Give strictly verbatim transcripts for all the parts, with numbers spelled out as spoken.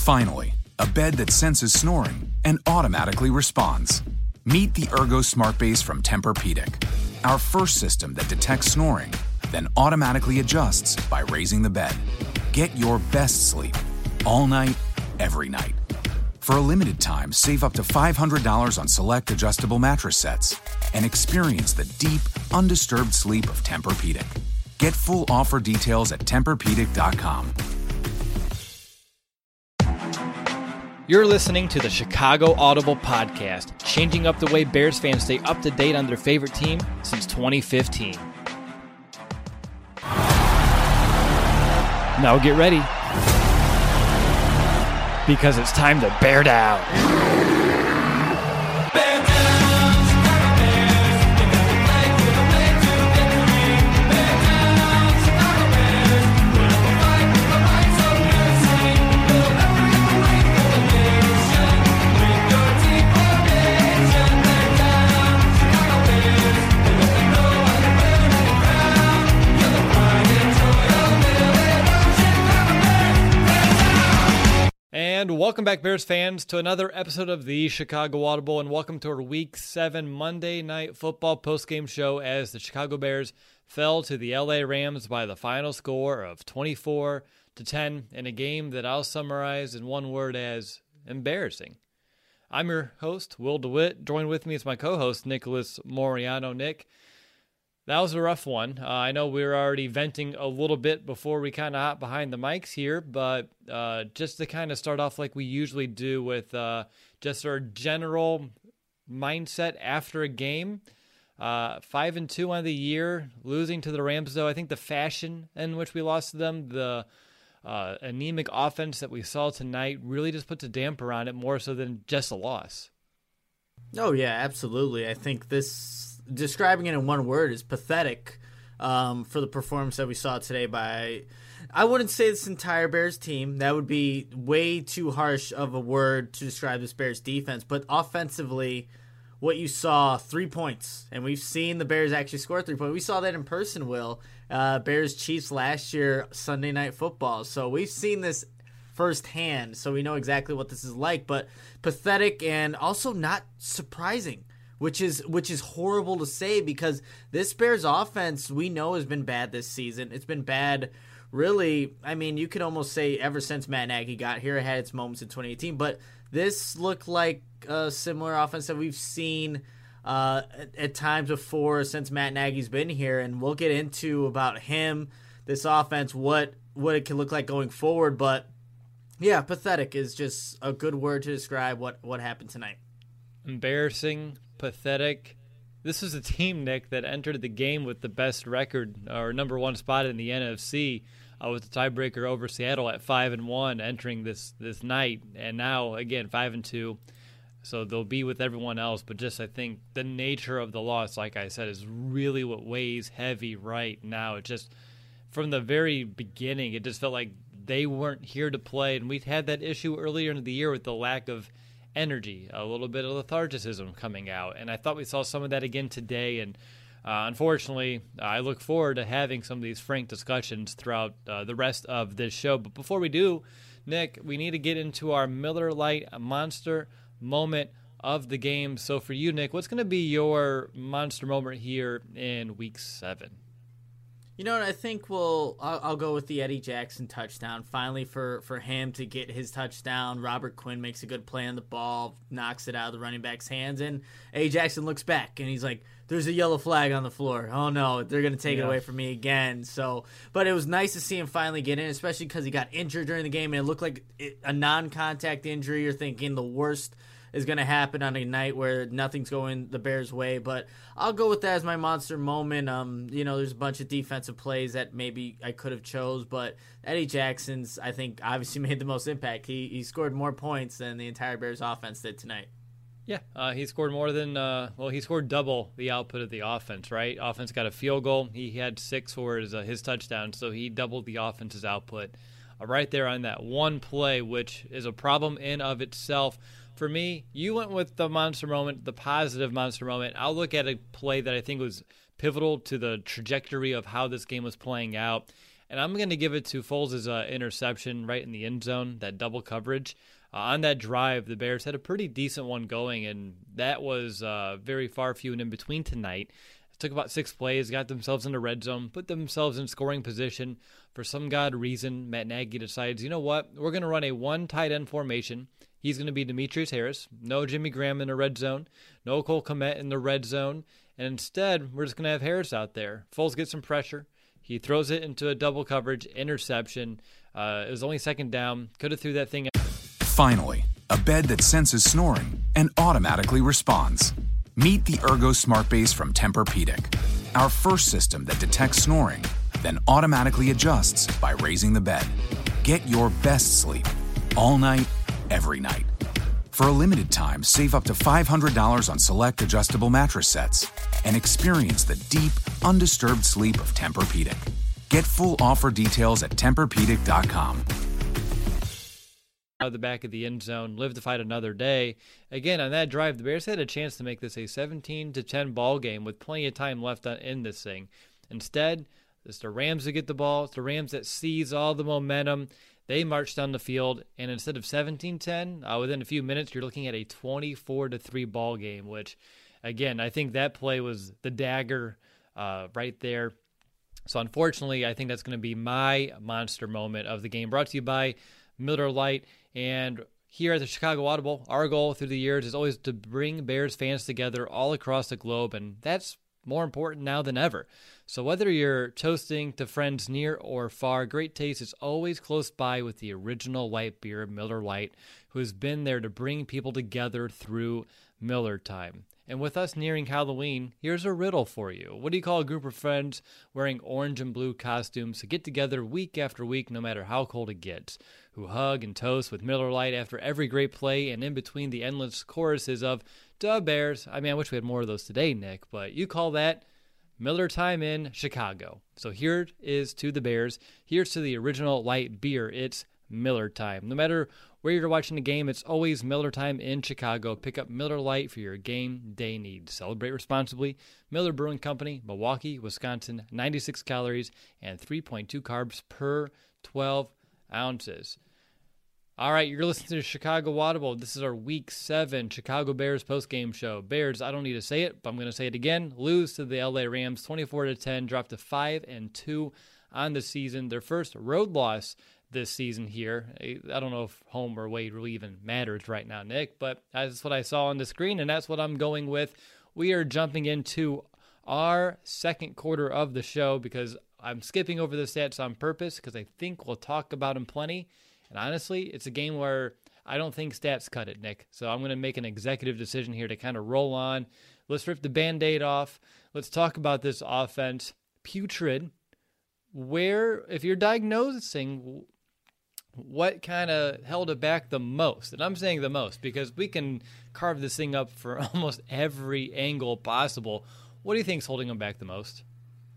Finally, a bed that senses snoring and automatically responds. Meet the Ergo Smart Base from Tempur-Pedic, our first system that detects snoring, then automatically adjusts by raising the bed. Get your best sleep all night, every night. For a limited time, save up to five hundred dollars on select adjustable mattress sets and experience the deep, undisturbed sleep of Tempur-Pedic. Get full offer details at Tempur Pedic dot com. You're listening to the Chicago Audible Podcast, changing up the way Bears fans stay up to date on their favorite team since twenty fifteen. Now get ready, because it's time to bear down. Bear down, Chicago Bears. They got to play for the way to victory. Bear down, Chicago Bears. We'll fight for the rights of U S A. We'll never ever wait for the nation. With your team formation. Bear down, Chicago Bears. They let them know how to wear the crown. You're the pride and joy of Middle Chicago Bears. Bear down. And welcome back, Bears fans, to another episode of the Chicago Audible, and welcome to our Week seven Monday Night Football postgame show as the Chicago Bears fell to the L A Rams by the final score of twenty-four to ten in a game that I'll summarize in one word as embarrassing. I'm your host, Will DeWitt. Joined with me is my co-host, Nicholas Moriano. Nick, that was a rough one. Uh, I know we were already venting a little bit before we kind of hop behind the mics here, but uh, just to kind of start off like we usually do with uh, just our general mindset after a game. Uh, five and two on the year, losing to the Rams, though. I think the fashion in which we lost to them, the uh, anemic offense that we saw tonight, really just puts a damper on it more so than just a loss. Oh, yeah, absolutely. I think this, describing it in one word, is pathetic um, for the performance that we saw today by, I wouldn't say this entire Bears team. That would be way too harsh of a word to describe this Bears defense. But offensively, what you saw, three points. And we've seen the Bears actually score three points. We saw that in person, Will. Uh, Bears-Chiefs last year, Sunday Night Football. So we've seen this firsthand, so we know exactly what this is like. But pathetic and also not surprising, which is which is horrible to say because this Bears offense we know has been bad this season. It's been bad, really. I mean, you could almost say ever since Matt Nagy got here. It had its moments in twenty eighteen, but this looked like a similar offense that we've seen uh, at, at times before since Matt Nagy's been here, and we'll get into about him, this offense, what what it can look like going forward. But yeah, pathetic is just a good word to describe what, what happened tonight. Embarrassing, pathetic. This is a team, Nick, that entered the game with the best record or number one spot in the N F C uh, with the tiebreaker over Seattle at five and one entering this this night, and now again five and two. So they'll be with everyone else, but just I think the nature of the loss, like I said, is really what weighs heavy right now. It just from the very beginning, it just felt like they weren't here to play, and we'd had that issue earlier in the year with the lack of energy, a little bit of lethargicism coming out, and I thought we saw some of that again today. And uh, unfortunately, I look forward to having some of these frank discussions throughout uh, the rest of this show. But before we do, Nick, we need to get into our Miller Lite Monster moment of the game. So for you, Nick, what's going to be your monster moment here in Week seven? You know what, I think we'll I'll, I'll go with the Eddie Jackson touchdown. Finally, for, for him to get his touchdown, Robert Quinn makes a good play on the ball, knocks it out of the running back's hands, and Eddie Jackson looks back, and he's like, there's a yellow flag on the floor. Oh, no, they're going to take yeah. it away from me again. So, but it was nice to see him finally get in, especially because he got injured during the game, and it looked like it, a non-contact injury. You're thinking the worst is going to happen on a night where nothing's going the Bears' way. But I'll go with that as my monster moment. Um, you know, there's a bunch of defensive plays that maybe I could have chose, but Eddie Jackson's, I think, obviously made the most impact. He he scored more points than the entire Bears offense did tonight. Yeah, uh, he scored more than, uh, well, he scored double the output of the offense, right? Offense got a field goal. He had six for his, uh, his touchdown, so he doubled the offense's output uh, right there on that one play, which is a problem in of itself. For me, you went with the monster moment, the positive monster moment. I'll look at a play that I think was pivotal to the trajectory of how this game was playing out, And I'm going to give it to Foles' uh, interception right in the end zone, that double coverage. Uh, on that drive, the Bears had a pretty decent one going, and that was uh, very far few and in between tonight. It took about six plays, got themselves in the red zone, put themselves in scoring position. For some god reason, Matt Nagy decides, you know what, we're going to run a one tight end formation. He's going to be Demetrius Harris. No Jimmy Graham in the red zone. No Cole Kmet in the red zone. And instead, we're just going to have Harris out there. Foles gets some pressure. He throws it into a double coverage, interception. Uh, it was only second down. Could have threw that thing. Finally, a bed that senses snoring and automatically responds. Meet the Ergo Smart Base from Tempur-Pedic, our first system that detects snoring, then automatically adjusts by raising the bed. Get your best sleep all night, every night. For a limited time, save up to five hundred dollars on select adjustable mattress sets and experience the deep, undisturbed sleep of Tempur-Pedic. Get full offer details at Tempur Pedic dot com. Out of the back of the end zone, live to fight another day. Again, on that drive, the Bears had a chance to make this a seventeen to ten ball game with plenty of time left in this thing. Instead, it's the Rams that get the ball. It's the Rams that seize all the momentum. They march down the field, and instead of seventeen ten, uh, within a few minutes, you're looking at a twenty-four to three ball game, which, again, I think that play was the dagger uh, right there. So, unfortunately, I think that's going to be my monster moment of the game. Brought to you by Miller Lite. And here at the Chicago Audible, our goal through the years is always to bring Bears fans together all across the globe, and that's more important now than ever. So whether you're toasting to friends near or far, great taste is always close by with the original light beer, Miller Lite, who has been there to bring people together through Miller time. And with us nearing Halloween, here's a riddle for you. What do you call a group of friends wearing orange and blue costumes to get together week after week, no matter how cold it gets, who hug and toast with Miller Lite after every great play and in between the endless choruses of "Duh Bears"? I mean, I wish we had more of those today, Nick, but you call that Miller time in Chicago. So here it is to the Bears. Here's to the original light beer. It's Miller time. No matter where you're watching the game, it's always Miller time in Chicago. Pick up Miller Lite for your game day needs. Celebrate responsibly. Miller Brewing Company, Milwaukee, Wisconsin. ninety-six calories and three point two carbs per twelve ounces. All right, you're listening to Chicago Audible. This is our Week seven Chicago Bears postgame show. Bears, I don't need to say it, but I'm going to say it again. Lose to the L A Rams twenty-four to ten, dropped to five and two on the season. Their first road loss this season here. I don't know if home or away really even matters right now, Nick, but that's what I saw on the screen, and that's what I'm going with. We are jumping into our second quarter of the show because I'm skipping over the stats on purpose because I think we'll talk about them plenty. And honestly, it's a game where I don't think stats cut it, Nick. So I'm going to make an executive decision here to kind of roll on. Let's rip the Band-Aid off. Let's talk about this offense. Putrid. Where, if you're diagnosing what kind of held it back the most, and I'm saying the most because we can carve this thing up for almost every angle possible. What do you think is holding them back the most?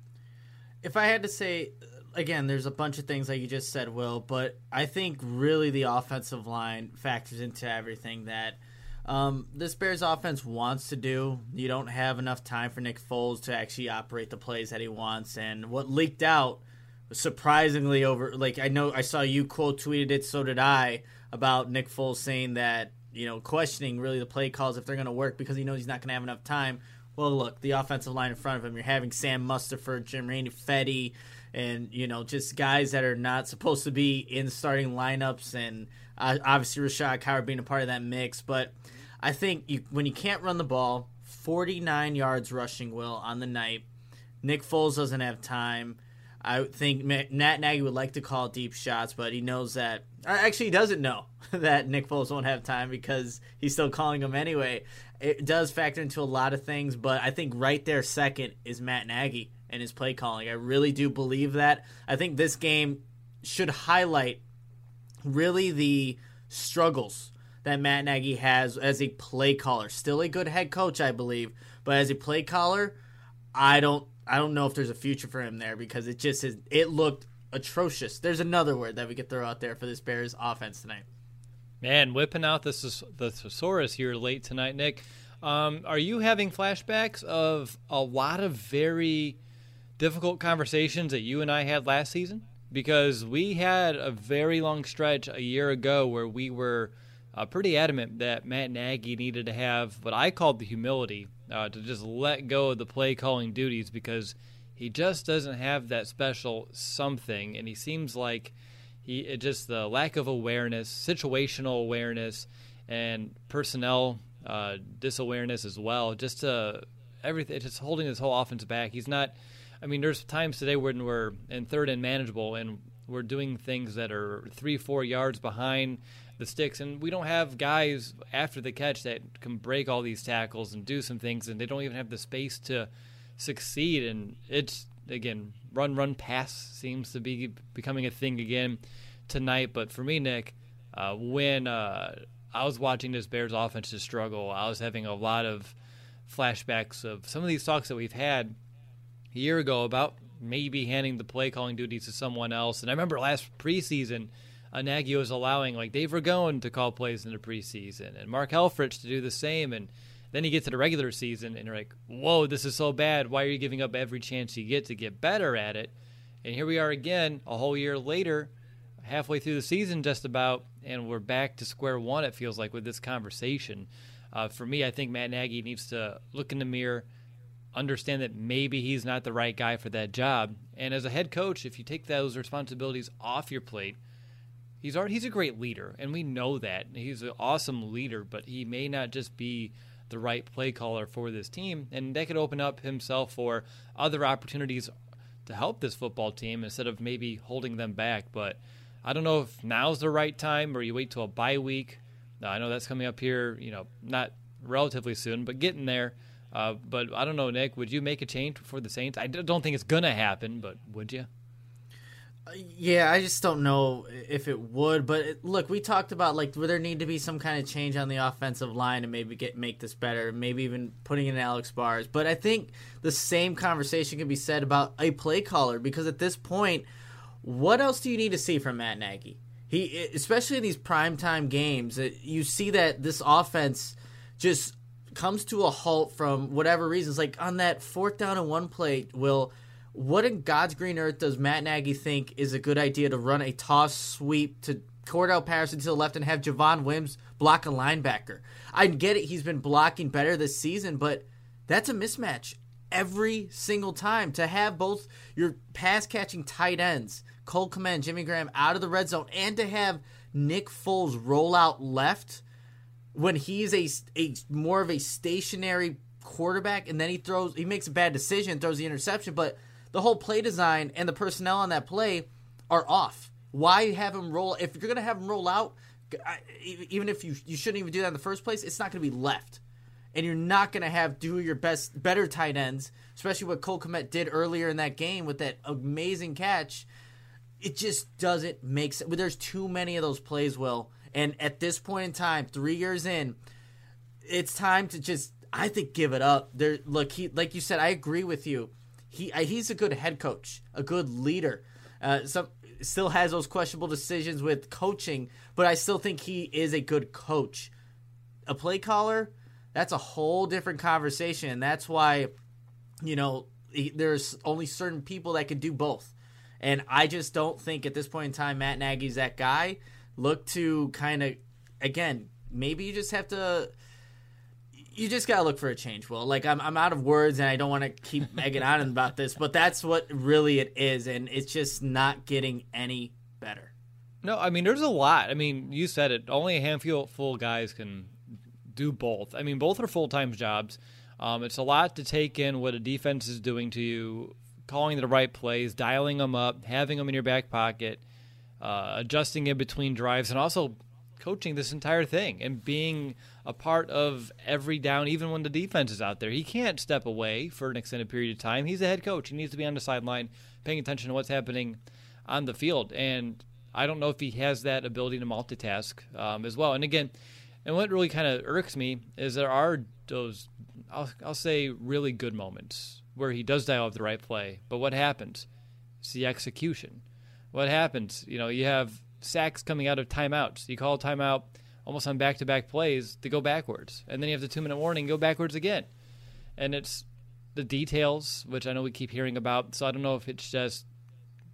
If I had to say, again, there's a bunch of things like you just said, Will, but I think really the offensive line factors into everything that um, this Bears offense wants to do. You don't have enough time for Nick Foles to actually operate the plays that he wants, and what leaked out was surprisingly over. Like I know I saw you quote tweeted it, so did I, about Nick Foles saying that, you know, questioning really the play calls if they're going to work because he knows he's not going to have enough time. Well, look, the offensive line in front of him, you're having Sam Mustipher, Jermaine Fetty, and, you know, just guys that are not supposed to be in starting lineups, and uh, obviously Rashad Coward being a part of that mix. But I think you, when you can't run the ball, forty-nine yards rushing, Will, on the night, Nick Foles doesn't have time. I think Matt Nagy would like to call deep shots, but he knows that – actually, he doesn't know that Nick Foles won't have time because he's still calling them anyway. It does factor into a lot of things, but I think right there second is Matt Nagy and his play calling. I really do believe that. I think this game should highlight really the struggles that Matt Nagy has as a play caller. Still a good head coach, I believe, but as a play caller, I don't I don't know if there's a future for him there because it just is, it looked atrocious. There's another word that we could throw out there for this Bears offense tonight. Man, whipping out the, the thesaurus here late tonight, Nick. Um, are you having flashbacks of a lot of very difficult conversations that you and I had last season? because we had a very long stretch a year ago where we were uh, pretty adamant that Matt Nagy needed to have what I called the humility uh, to just let go of the play calling duties, because he just doesn't have that special something, and he seems like he it just the lack of awareness, situational awareness, and personnel uh, disawareness as well. Just uh, everything, just holding his whole offense back. He's not. I mean, there's times today when we're in third and manageable, and we're doing things that are three, four yards behind the sticks, and we don't have guys after the catch that can break all these tackles and do some things, and they don't even have the space to succeed. And it's, again, run, run, pass seems to be becoming a thing again tonight. But for me, Nick, uh, when uh, I was watching this Bears offense just struggle, I was having a lot of flashbacks of some of these talks that we've had a year ago about maybe handing the play calling duties to someone else. And I remember last preseason, uh, Nagy was allowing like Dave Ragone to call plays in the preseason and Mark Helfrich to do the same. And then you get to the regular season and you're like, whoa, this is so bad. Why are you giving up every chance you get to get better at it? And here we are again, a whole year later, halfway through the season just about, and we're back to square one, it feels like, with this conversation. Uh, for me, I think Matt Nagy needs to look in the mirror, understand that maybe he's not the right guy for that job. And as a head coach, if you take those responsibilities off your plate, he's already, he's a great leader, and we know that. He's an awesome leader, but he may not just be the right play caller for this team, and that could open up himself for other opportunities to help this football team instead of maybe holding them back. But I don't know if now's the right time or you wait till a bye week. Now, I know that's coming up here, you know, not relatively soon, but getting there. Uh, but I don't know, Nick, would you make a change for the Saints? I don't think it's going to happen, but would you? Yeah, I just don't know if it would. But it, look, we talked about like would there need to be some kind of change on the offensive line to maybe get make this better, maybe even putting in Alex Bars. But I think the same conversation can be said about a play caller, because at this point, what else do you need to see from Matt Nagy? He, especially in these primetime games, you see that this offense just comes to a halt from whatever reasons. Like on that fourth down and one play, Will, what in God's green earth does Matt Nagy think is a good idea to run a toss sweep to Cordell Patterson to the left and have Javon Wims block a linebacker? I get it, he's been blocking better this season, but that's a mismatch every single time. To have both your pass-catching tight ends, Cole Kmet, Jimmy Graham, out of the red zone, and to have Nick Foles roll out left when he's a, a more of a stationary quarterback, and then he throws, he makes a bad decision, throws the interception, but the whole play design and the personnel on that play are off. Why have him roll? If you're going to have him roll out, even if you you shouldn't even do that in the first place, it's not going to be left. And you're not going to have do your best, better tight ends, especially what Cole Kmet did earlier in that game with that amazing catch. It just doesn't make sense. There's too many of those plays, Will. And at this point in time, three years in, it's time to just, I think, give it up. There, look, he, like you said, I agree with you. He he's a good head coach, a good leader. Uh, some still has those questionable decisions with coaching, but I still think he is a good coach. A play caller, that's a whole different conversation. And that's why, you know, he, there's only certain people that can do both. And I just don't think at this point in time Matt Nagy's that guy. Look to kind of, again, maybe you just have to, you just got to look for a change, Will. Like, I'm I'm out of words, and I don't want to keep egging on about this, but that's what really it is, and it's just not getting any better. No, I mean, there's a lot. I mean, you said it. Only a handful of guys can do both. I mean, both are full-time jobs. Um, it's a lot to take in what a defense is doing to you, calling the right plays, dialing them up, having them in your back pocket, uh, adjusting in between drives, and also coaching this entire thing and being a part of every down, even when the defense is out there. He can't step away for an extended period of time. He's a head coach. He needs to be on the sideline paying attention to what's happening on the field. And I don't know if he has that ability to multitask um, as well. And again, and what really kind of irks me is there are those, I'll, I'll say, really good moments where he does dial up the right play. But what happens? It's the execution. What happens? You know, you have sacks coming out of timeouts. You call a timeout almost on back-to-back plays to go backwards. And then you have the two-minute warning, go backwards again. And it's the details, which I know we keep hearing about. So I don't know if it's just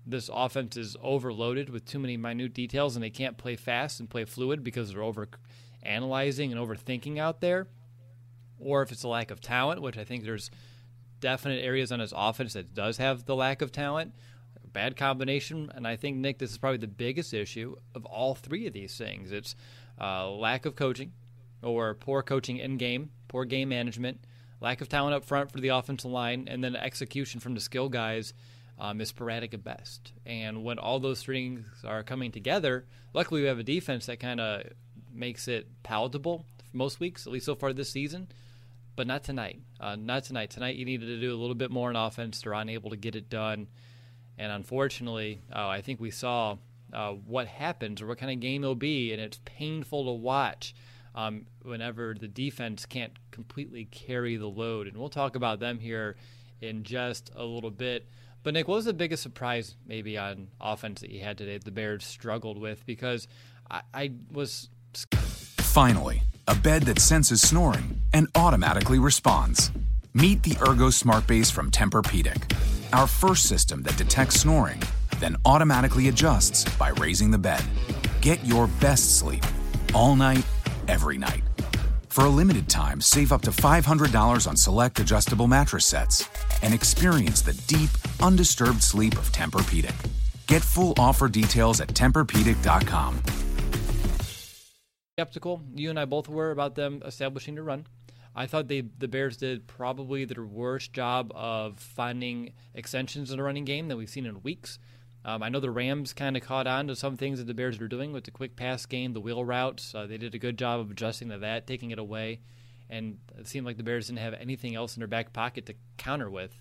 this offense is overloaded with too many minute details and they can't play fast and play fluid because they're over analyzing and overthinking out there, or if it's a lack of talent, which I think there's definite areas on his offense that does have the lack of talent, bad combination. And I think, Nick, this is probably the biggest issue of all three of these things. It's uh, lack of coaching, or poor coaching in game, poor game management, lack of talent up front for the offensive line, and then execution from the skill guys um, is sporadic at best. And when all those things are coming together, luckily we have a defense that kind of makes it palatable for most weeks, at least so far this season, but not tonight. Uh, not tonight. Tonight you needed to do a little bit more on offense. They're unable to get it done. And unfortunately, uh, I think we saw uh, what happens or what kind of game it'll be, and it's painful to watch um, whenever the defense can't completely carry the load. And we'll talk about them here in just a little bit. But, Nick, what was the biggest surprise maybe on offense that you had today that the Bears struggled with? Because I, I was... Finally, a bed that senses snoring and automatically responds. Meet the Ergo Smart Base from Tempur-Pedic, our first system that detects snoring, then automatically adjusts by raising the bed. Get your best sleep all night, every night. For a limited time, save up to five hundred dollars on select adjustable mattress sets and experience the deep, undisturbed sleep of Tempur-Pedic. Get full offer details at Tempur Pedic dot com. Skeptical, you and I both were, about them establishing the run. I thought they the Bears did probably their worst job of finding extensions in the running game that we've seen in weeks. Um, I know the Rams kind of caught on to some things that the Bears were doing with the quick pass game, the wheel routes. Uh, they did a good job of adjusting to that, taking it away. And it seemed like the Bears didn't have anything else in their back pocket to counter with.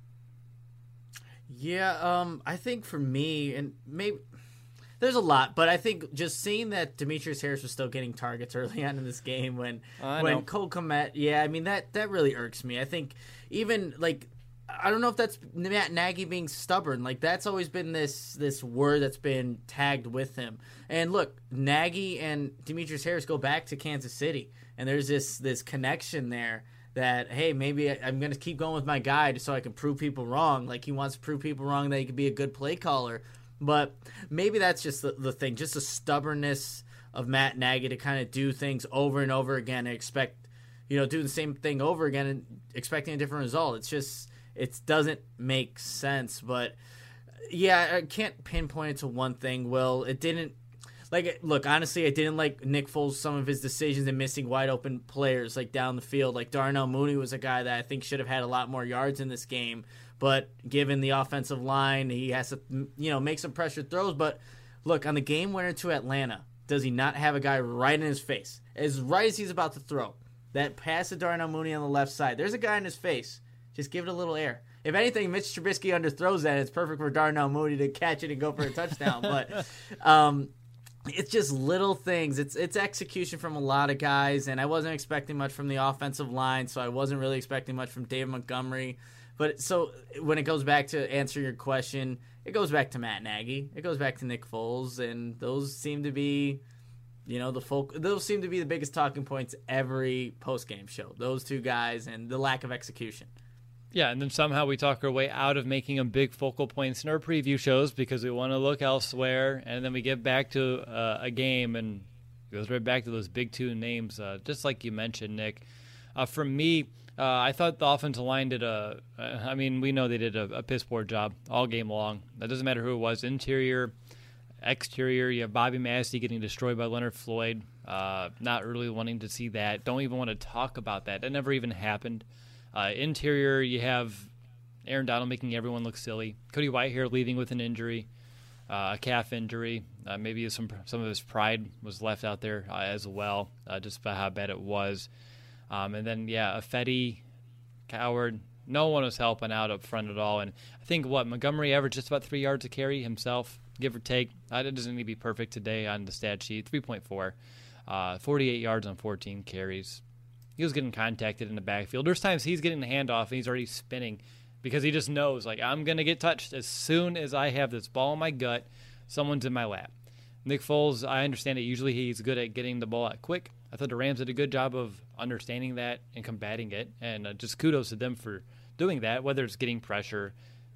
Yeah, um, I think for me, and maybe there's a lot, but I think just seeing that Demetrius Harris was still getting targets early on in this game when I when know. Cole Kmet, yeah, I mean that that really irks me. I think even like I don't know if that's Matt Nagy being stubborn. Like that's always been this this word that's been tagged with him. And look, Nagy and Demetrius Harris go back to Kansas City, and there's this this connection there. That, hey, maybe I'm going to keep going with my guy just so I can prove people wrong. Like, he wants to prove people wrong that he could be a good play caller. But maybe that's just the, the thing, just the stubbornness of Matt Nagy to kind of do things over and over again and expect, you know, do the same thing over again and expecting a different result. It's just, it doesn't make sense. But, yeah, I can't pinpoint it to one thing, Will. It didn't. Like, look, honestly, I didn't like Nick Foles, some of his decisions in missing wide open players, like, down the field. Like, Darnell Mooney was a guy that I think should have had a lot more yards in this game. But given the offensive line, he has to, you know, make some pressure throws. But, look, on the game winner to Atlanta, does he not have a guy right in his face? As right as he's about to throw, that pass to Darnell Mooney on the left side, there's a guy in his face. Just give it a little air. If anything, Mitch Trubisky underthrows that. It's perfect for Darnell Mooney to catch it and go for a touchdown. But, um... it's just little things. It's it's execution from a lot of guys, and I wasn't expecting much from the offensive line, so I wasn't really expecting much from David Montgomery. But so when it goes back to answer your question, it goes back to Matt Nagy. It goes back to Nick Foles, and those seem to be, you know, the folk. Those seem to be the biggest talking points every post-game show. Those two guys and the lack of execution. Yeah, and then somehow we talk our way out of making them big focal points in our preview shows because we want to look elsewhere, and then we get back to uh, a game and it goes right back to those big two names, uh, just like you mentioned, Nick. Uh, for me, uh, I thought the offensive line did a – I mean, we know they did a, a piss-poor job all game long. That doesn't matter who it was, interior, exterior. You have Bobby Massey getting destroyed by Leonard Floyd, uh, not really wanting to see that. Don't even want to talk about that. That never even happened. Uh, interior, you have Aaron Donald making everyone look silly. Cody Whitehair leaving with an injury, uh, a calf injury. Uh, maybe some some of his pride was left out there uh, as well, uh, just by how bad it was. Um, and then, yeah, Ifedi, Coward, no one was helping out up front at all. And I think, what, Montgomery averaged just about three yards a carry himself, give or take. Uh, it doesn't need to be perfect today on the stat sheet, three point four. Uh, forty-eight yards on fourteen carries. He was getting contacted in the backfield. There's times he's getting the handoff and he's already spinning because he just knows, like, I'm going to get touched as soon as I have this ball in my gut, someone's in my lap. Nick Foles, I understand it. Usually he's good at getting the ball out quick. I thought the Rams did a good job of understanding that and combating it, and uh, just kudos to them for doing that, whether it's getting pressure,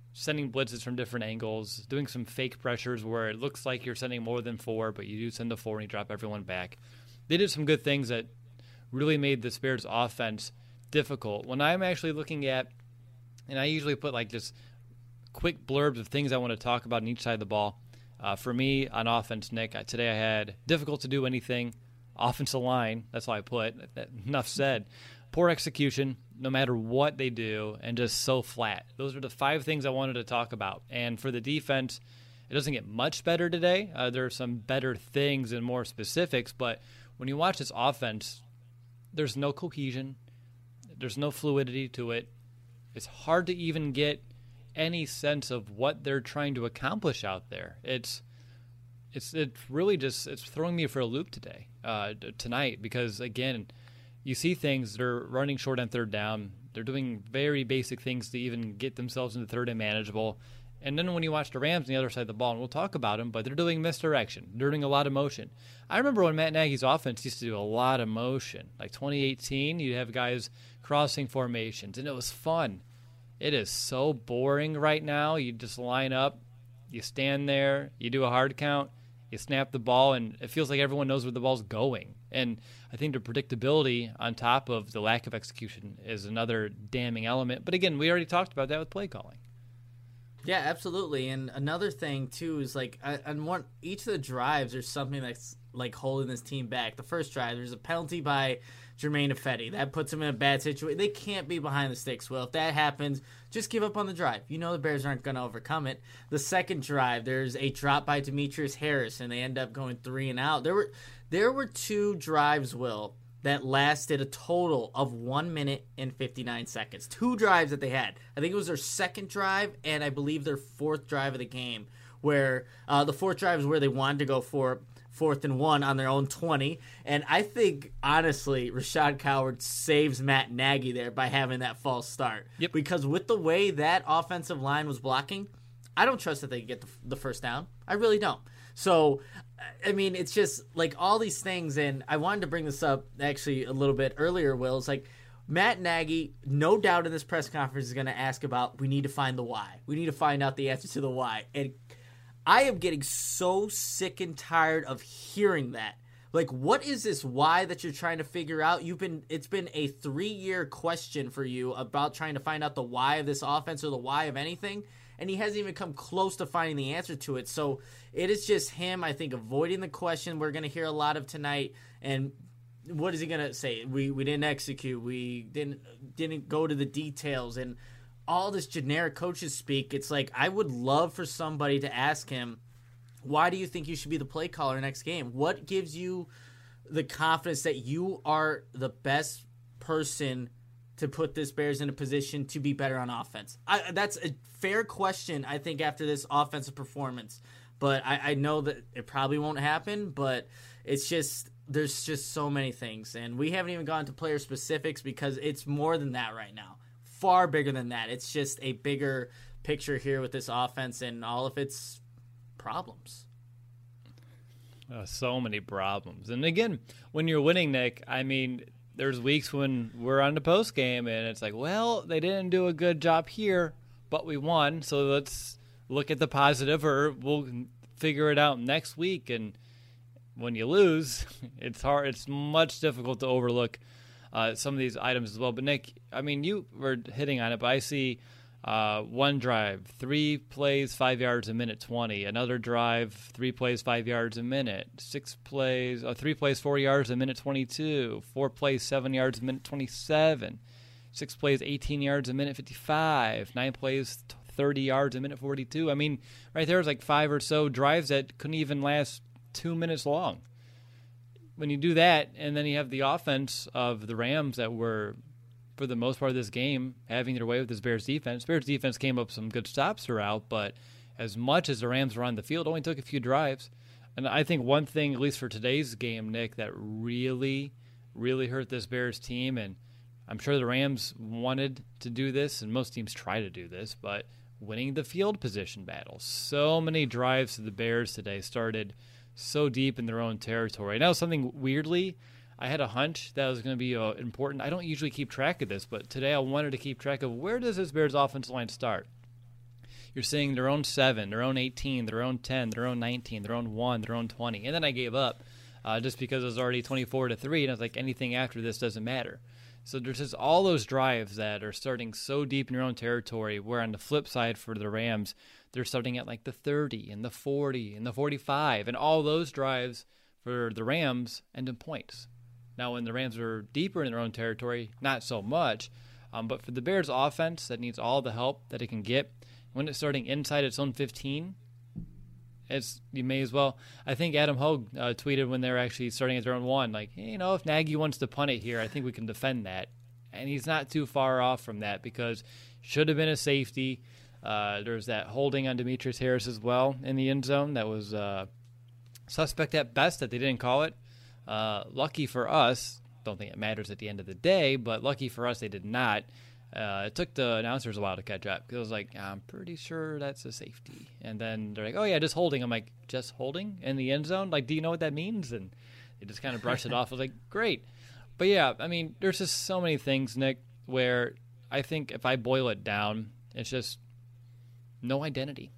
sending blitzes from different angles, doing some fake pressures where it looks like you're sending more than four, but you do send the four and you drop everyone back. They did some good things that really made the Bears offense difficult. When I'm actually looking at, and I usually put like just quick blurbs of things I want to talk about on each side of the ball. Uh, for me, on offense, Nick, I, today I had difficult to do anything. Offensive line, that's all I put. Enough said. Poor execution, no matter what they do, and just so flat. Those are the five things I wanted to talk about. And for the defense, it doesn't get much better today. Uh, there are some better things and more specifics, but when you watch this offense, there's no cohesion. There's no fluidity to it. It's hard to even get any sense of what they're trying to accomplish out there. It's it's it's really just it's throwing me for a loop today, uh, tonight, because again, you see things, they're running short on third down. They're doing very basic things to even get themselves into third and manageable. And then when you watch the Rams on the other side of the ball, and we'll talk about them, but they're doing misdirection. They're doing a lot of motion. I remember when Matt Nagy's offense used to do a lot of motion. Like twenty eighteen, you'd have guys crossing formations, and it was fun. It is so boring right now. You just line up, you stand there, you do a hard count, you snap the ball, and it feels like everyone knows where the ball's going. And I think the predictability on top of the lack of execution is another damning element. But again, we already talked about that with play calling. Yeah, absolutely. And another thing too is like uh, on one each of the drives, there's something that's like holding this team back. The first drive, there's a penalty by Jermaine Ifedi that puts them in a bad situation. They can't be behind the sticks. Well, if that happens, just give up on the drive. You know the Bears aren't going to overcome it. The second drive, there's a drop by Demetrius Harris, and they end up going three and out. There were there were two drives, Will, that lasted a total of one minute and fifty-nine seconds. Two drives that they had. I think it was their second drive and I believe their fourth drive of the game, where uh, the fourth drive is where they wanted to go for fourth and one on their own twenty. And I think, honestly, Rashad Coward saves Matt Nagy there by having that false start. Yep. Because with the way that offensive line was blocking, I don't trust that they can get the, the first down. I really don't. So, I mean, it's just like all these things, and I wanted to bring this up actually a little bit earlier, Will. It's like Matt Nagy, no doubt in this press conference, is going to ask about, we need to find the why. We need to find out the answer to the why. And I am getting so sick and tired of hearing that. Like, what is this why that you're trying to figure out? You've been it's been a three-year question for you about trying to find out the why of this offense or the why of anything, and he hasn't even come close to finding the answer to it. So it is just him, I think, avoiding the question we're going to hear a lot of tonight. And what is he going to say? We we didn't execute. We didn't didn't go to the details. And all this generic coaches speak, it's like I would love for somebody to ask him, why do you think you should be the play caller next game? What gives you the confidence that you are the best person to put this Bears in a position to be better on offense? I, that's a fair question, I think, after this offensive performance. But I, I know that it probably won't happen, but it's just there's just so many things. And we haven't even gone to player specifics because it's more than that right now. Far bigger than that. It's just a bigger picture here with this offense and all of its problems. Uh, so many problems. And again, when you're winning, Nick, I mean, there's weeks when we're on the post game and it's like, well, they didn't do a good job here, but we won. So let's look at the positive, or we'll figure it out next week. And when you lose, it's hard. It's much difficult to overlook uh, some of these items as well. But Nick, I mean, you were hitting on it, but I see Uh, one drive, three plays, five yards a minute, twenty. Another drive, three plays, five yards a minute. Six plays, uh, three plays, four yards a minute, twenty-two. Four plays, seven yards a minute, twenty-seven. Six plays, eighteen yards a minute, fifty-five. Nine plays, thirty yards a minute, forty-two. I mean, right there is like five or so drives that couldn't even last two minutes long. When you do that, and then you have the offense of the Rams that were, for the most part of this game, having their way with this Bears defense. Bears defense came up with some good stops throughout, but as much as the Rams were on the field, only took a few drives. And I think one thing, at least for today's game, Nick, that really, really hurt this Bears team, and I'm sure the Rams wanted to do this, and most teams try to do this, but winning the field position battle. So many drives to the Bears today started so deep in their own territory. Now, something weirdly, I had a hunch that was going to be uh, important. I don't usually keep track of this, but today I wanted to keep track of where does this Bears offensive line start. you're seeing their own seven, their own eighteen, their own ten, their own nineteen, their own one, their own twenty. And then I gave up uh, just because it was already twenty-four to three, and I was like, anything after this doesn't matter. So there's just all those drives that are starting so deep in your own territory, where on the flip side for the Rams, they're starting at like the thirty and the forty and the forty-five, and all those drives for the Rams end in points. Now, when the Rams are deeper in their own territory, not so much. Um, but for the Bears offense that needs all the help that it can get, when it's starting inside its own fifteen, it's you may as well. I think Adam Hogue uh, tweeted when they were actually starting at their own one, like, hey, you know, if Nagy wants to punt it here, I think we can defend that. And he's not too far off from that, because should have been a safety. Uh, there's that holding on Demetrius Harris as well in the end zone that was uh, suspect at best that they didn't call it. Uh, lucky for us, don't think it matters at the end of the day, but lucky for us they did not. Uh, it took the announcers a while to catch up, because I was like, I'm pretty sure that's a safety. And then they're like, oh, yeah, just holding. I'm like, just holding in the end zone? Like, do you know what that means? And they just kind of brushed it off. I was like, great. But, yeah, I mean, there's just so many things, Nick, where I think if I boil it down, it's just no identity.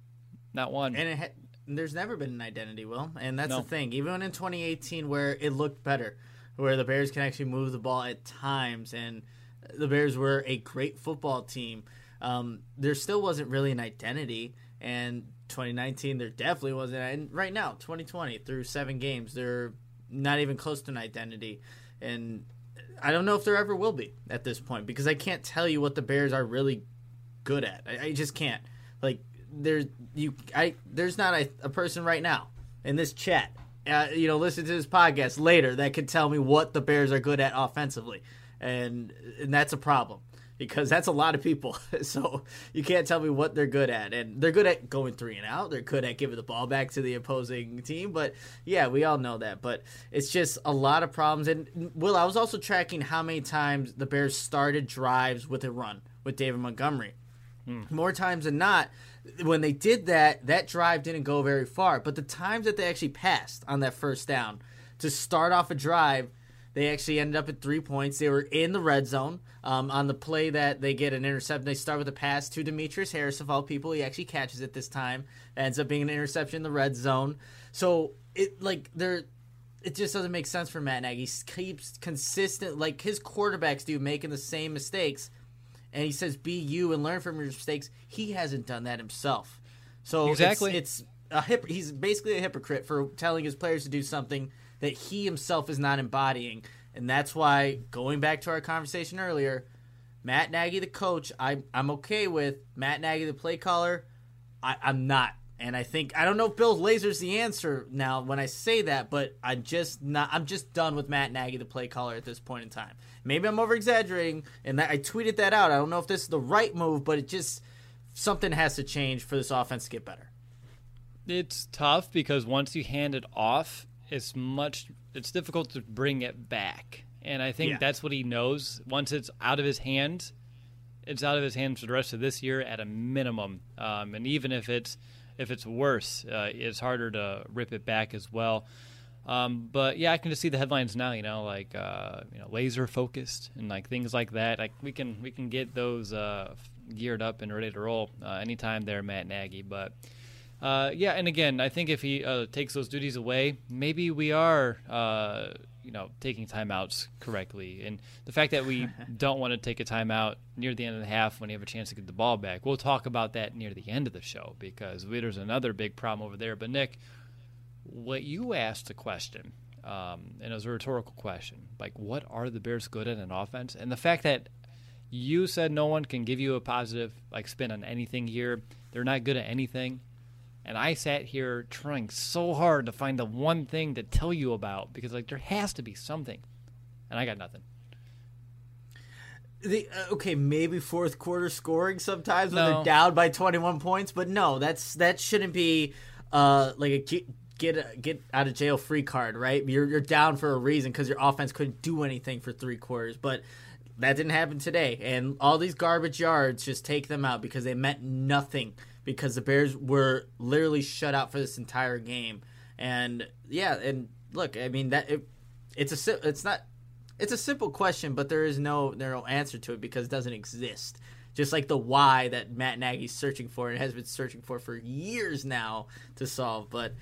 Not one. And it ha- there's never been an identity, Will. And that's No. the thing. Even in twenty eighteen, where it looked better, where the Bears can actually move the ball at times, and the Bears were a great football team, um, there still wasn't really an identity. And twenty nineteen, there definitely wasn't. And right now, twenty twenty, through seven games, they're not even close to an identity. And I don't know if there ever will be at this point, because I can't tell you what the Bears are really good at. I, I just can't. Like, there's you, I there's not a, a person right now in this chat, uh, you know, listen to this podcast later that could tell me what the Bears are good at offensively, and and that's a problem, because that's a lot of people. So you can't tell me what they're good at, and they're good at going three and out. They're good at giving the ball back to the opposing team. But yeah, we all know that. But it's just a lot of problems. And Will, I was also tracking how many times the Bears started drives with a run with David Montgomery. Hmm. More times than not, when they did that, that drive didn't go very far. But the times that they actually passed on that first down to start off a drive, they actually ended up at three points. They were in the red zone. Um, on the play that they get an interception, they start with a pass to Demetrius Harris, of all people. He actually catches it this time. It ends up being an interception in the red zone. So it like there, it just doesn't make sense for Matt Nagy. He keeps consistent, like his quarterbacks do, making the same mistakes. And he says, be you and learn from your mistakes. He hasn't done that himself. So Exactly. it's, it's a hip, he's basically a hypocrite for telling his players to do something that he himself is not embodying. And that's why, going back to our conversation earlier, Matt Nagy, the coach, I, I'm okay with. Matt Nagy, the play caller, I, I'm not. And I think, I don't know if Bill Lazor's the answer now when I say that, but I'm just not, I'm just done with Matt Nagy, the play caller, at this point in time. Maybe I'm over exaggerating, and that, I tweeted that out. I don't know if this is the right move, but it just, something has to change for this offense to get better. It's tough, because once you hand it off, it's much, it's difficult to bring it back. And I think Yeah. that's what he knows. Once it's out of his hands, it's out of his hands for the rest of this year at a minimum. Um, and even if it's, if it's worse, uh, it's harder to rip it back as well. Um, but yeah, I can just see the headlines now, you know, like, uh, you know, laser focused and like things like that. Like we can, we can get those, uh, geared up and ready to roll, uh, anytime they're Matt Nagy. But, uh, yeah. And again, I think if he, uh, takes those duties away, maybe we are, uh, you know, taking timeouts correctly. And the fact that we don't want to take a timeout near the end of the half when you have a chance to get the ball back, we'll talk about that near the end of the show, because there's another big problem over there. But Nick, what you asked a question, um, and it was a rhetorical question, like what are the Bears good at in offense? And the fact that you said no one can give you a positive like spin on anything here, they're not good at anything. And I sat here trying so hard to find the one thing to tell you about, because like there has to be something, and I got nothing. The, uh, okay, maybe fourth quarter scoring sometimes when No. they're down by twenty-one points, but no, that's that shouldn't be uh, like a get get, a, get out of jail free card, right? You're you're down for a reason, because your offense couldn't do anything for three quarters, but that didn't happen today. And all these garbage yards, just take them out, because they meant nothing, because the Bears were literally shut out for this entire game. And yeah, and look, I mean that it, it's a si- it's not. It's a simple question, but there is no there no answer to it, because it doesn't exist. just like the why that Matt Nagy's searching for and has been searching for for years now to solve. But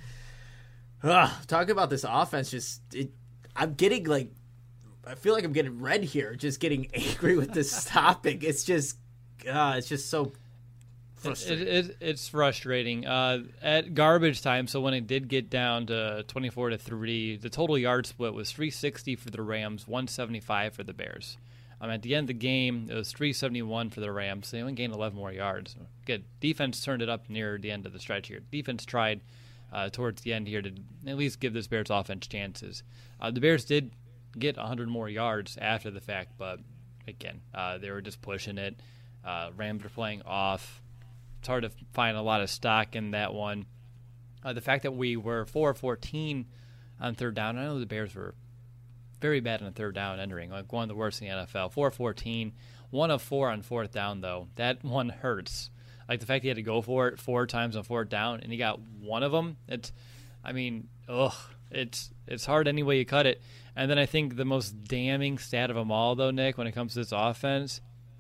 uh, talking about this offense, just it, I'm getting like, I feel like I'm getting red here, just getting angry with this topic. It's just, uh, it's just so frustrating. It, it, it's frustrating. Uh, at garbage time, so when it did get down to twenty-four to three, the total yard split was three sixty for the Rams, one seventy-five for the Bears. Um, at the end of the game, it was three seventy-one for the Rams. They only gained eleven more yards. Good. Defense turned it up near the end of the stretch here. Defense tried uh, towards the end here to at least give this Bears offense chances. Uh, the Bears did get one hundred more yards after the fact, but again, uh, they were just pushing it. Uh, Rams were playing off. It's hard to find a lot of stock in that one. Uh, the fact that we were four of fourteen on third down, I know the Bears were very bad on third down entering, like one of the worst in the N F L. four of fourteen, one of four on fourth down, though. That one hurts. Like the fact he had to go for it four times on fourth down, and he got one of them. It's, I mean, ugh. It's it's hard any way you cut it. And then I think the most damning stat of them all, though, Nick, when it comes to this offense,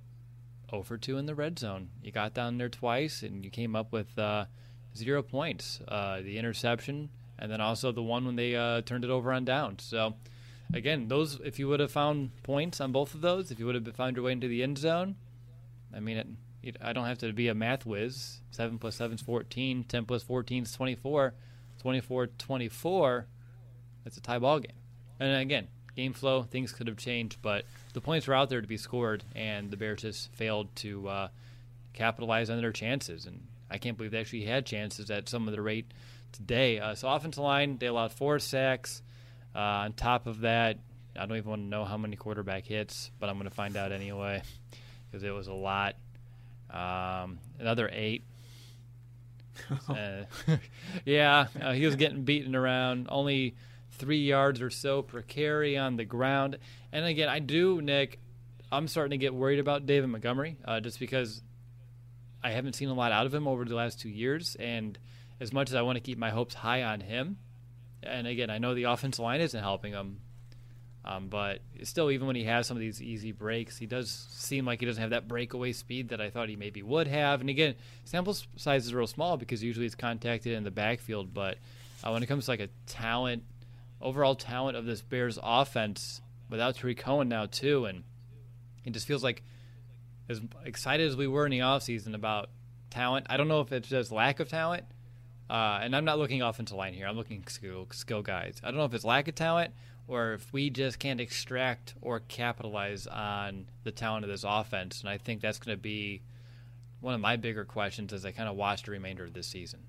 oh for two in the red zone. You got down there twice, and you came up with uh, zero points. Uh, the interception, and then also the one when they uh, turned it over on downs. So, again, those if you would have found points on both of those, if you would have found your way into the end zone, I mean, it, it, I don't have to be a math whiz. seven plus seven is fourteen. ten plus fourteen is twenty-four. twenty-four twenty-four. It's a tie ball game. And again, game flow, things could have changed, but the points were out there to be scored, and the Bears just failed to uh, capitalize on their chances. And I can't believe they actually had chances at some of the rate today. Uh, so offensive line, they allowed four sacks. Uh, on top of that, I don't even want to know how many quarterback hits, but I'm going to find out anyway because it was a lot. Um, another eight. uh, yeah, uh, he was getting beaten around. Only three yards or so per carry on the ground. And again, I do, Nick, I'm starting to get worried about David Montgomery uh, just because I haven't seen a lot out of him over the last two years. And as much as I want to keep my hopes high on him, and again, I know the offensive line isn't helping him, um, but still, even when he has some of these easy breaks, he does seem like he doesn't have that breakaway speed that I thought he maybe would have. And again, sample size is real small because usually it's contacted in the backfield. But uh, when it comes to like a talent, overall talent of this Bears offense, without Tariq Cohen now too, and it just feels like as excited as we were in the offseason about talent, I don't know if it's just lack of talent. Uh, and I'm not looking offensive line here. I'm looking skill, skill guys. I don't know if it's lack of talent or if we just can't extract or capitalize on the talent of this offense. And I think that's going to be one of my bigger questions as I kind of watch the remainder of this season.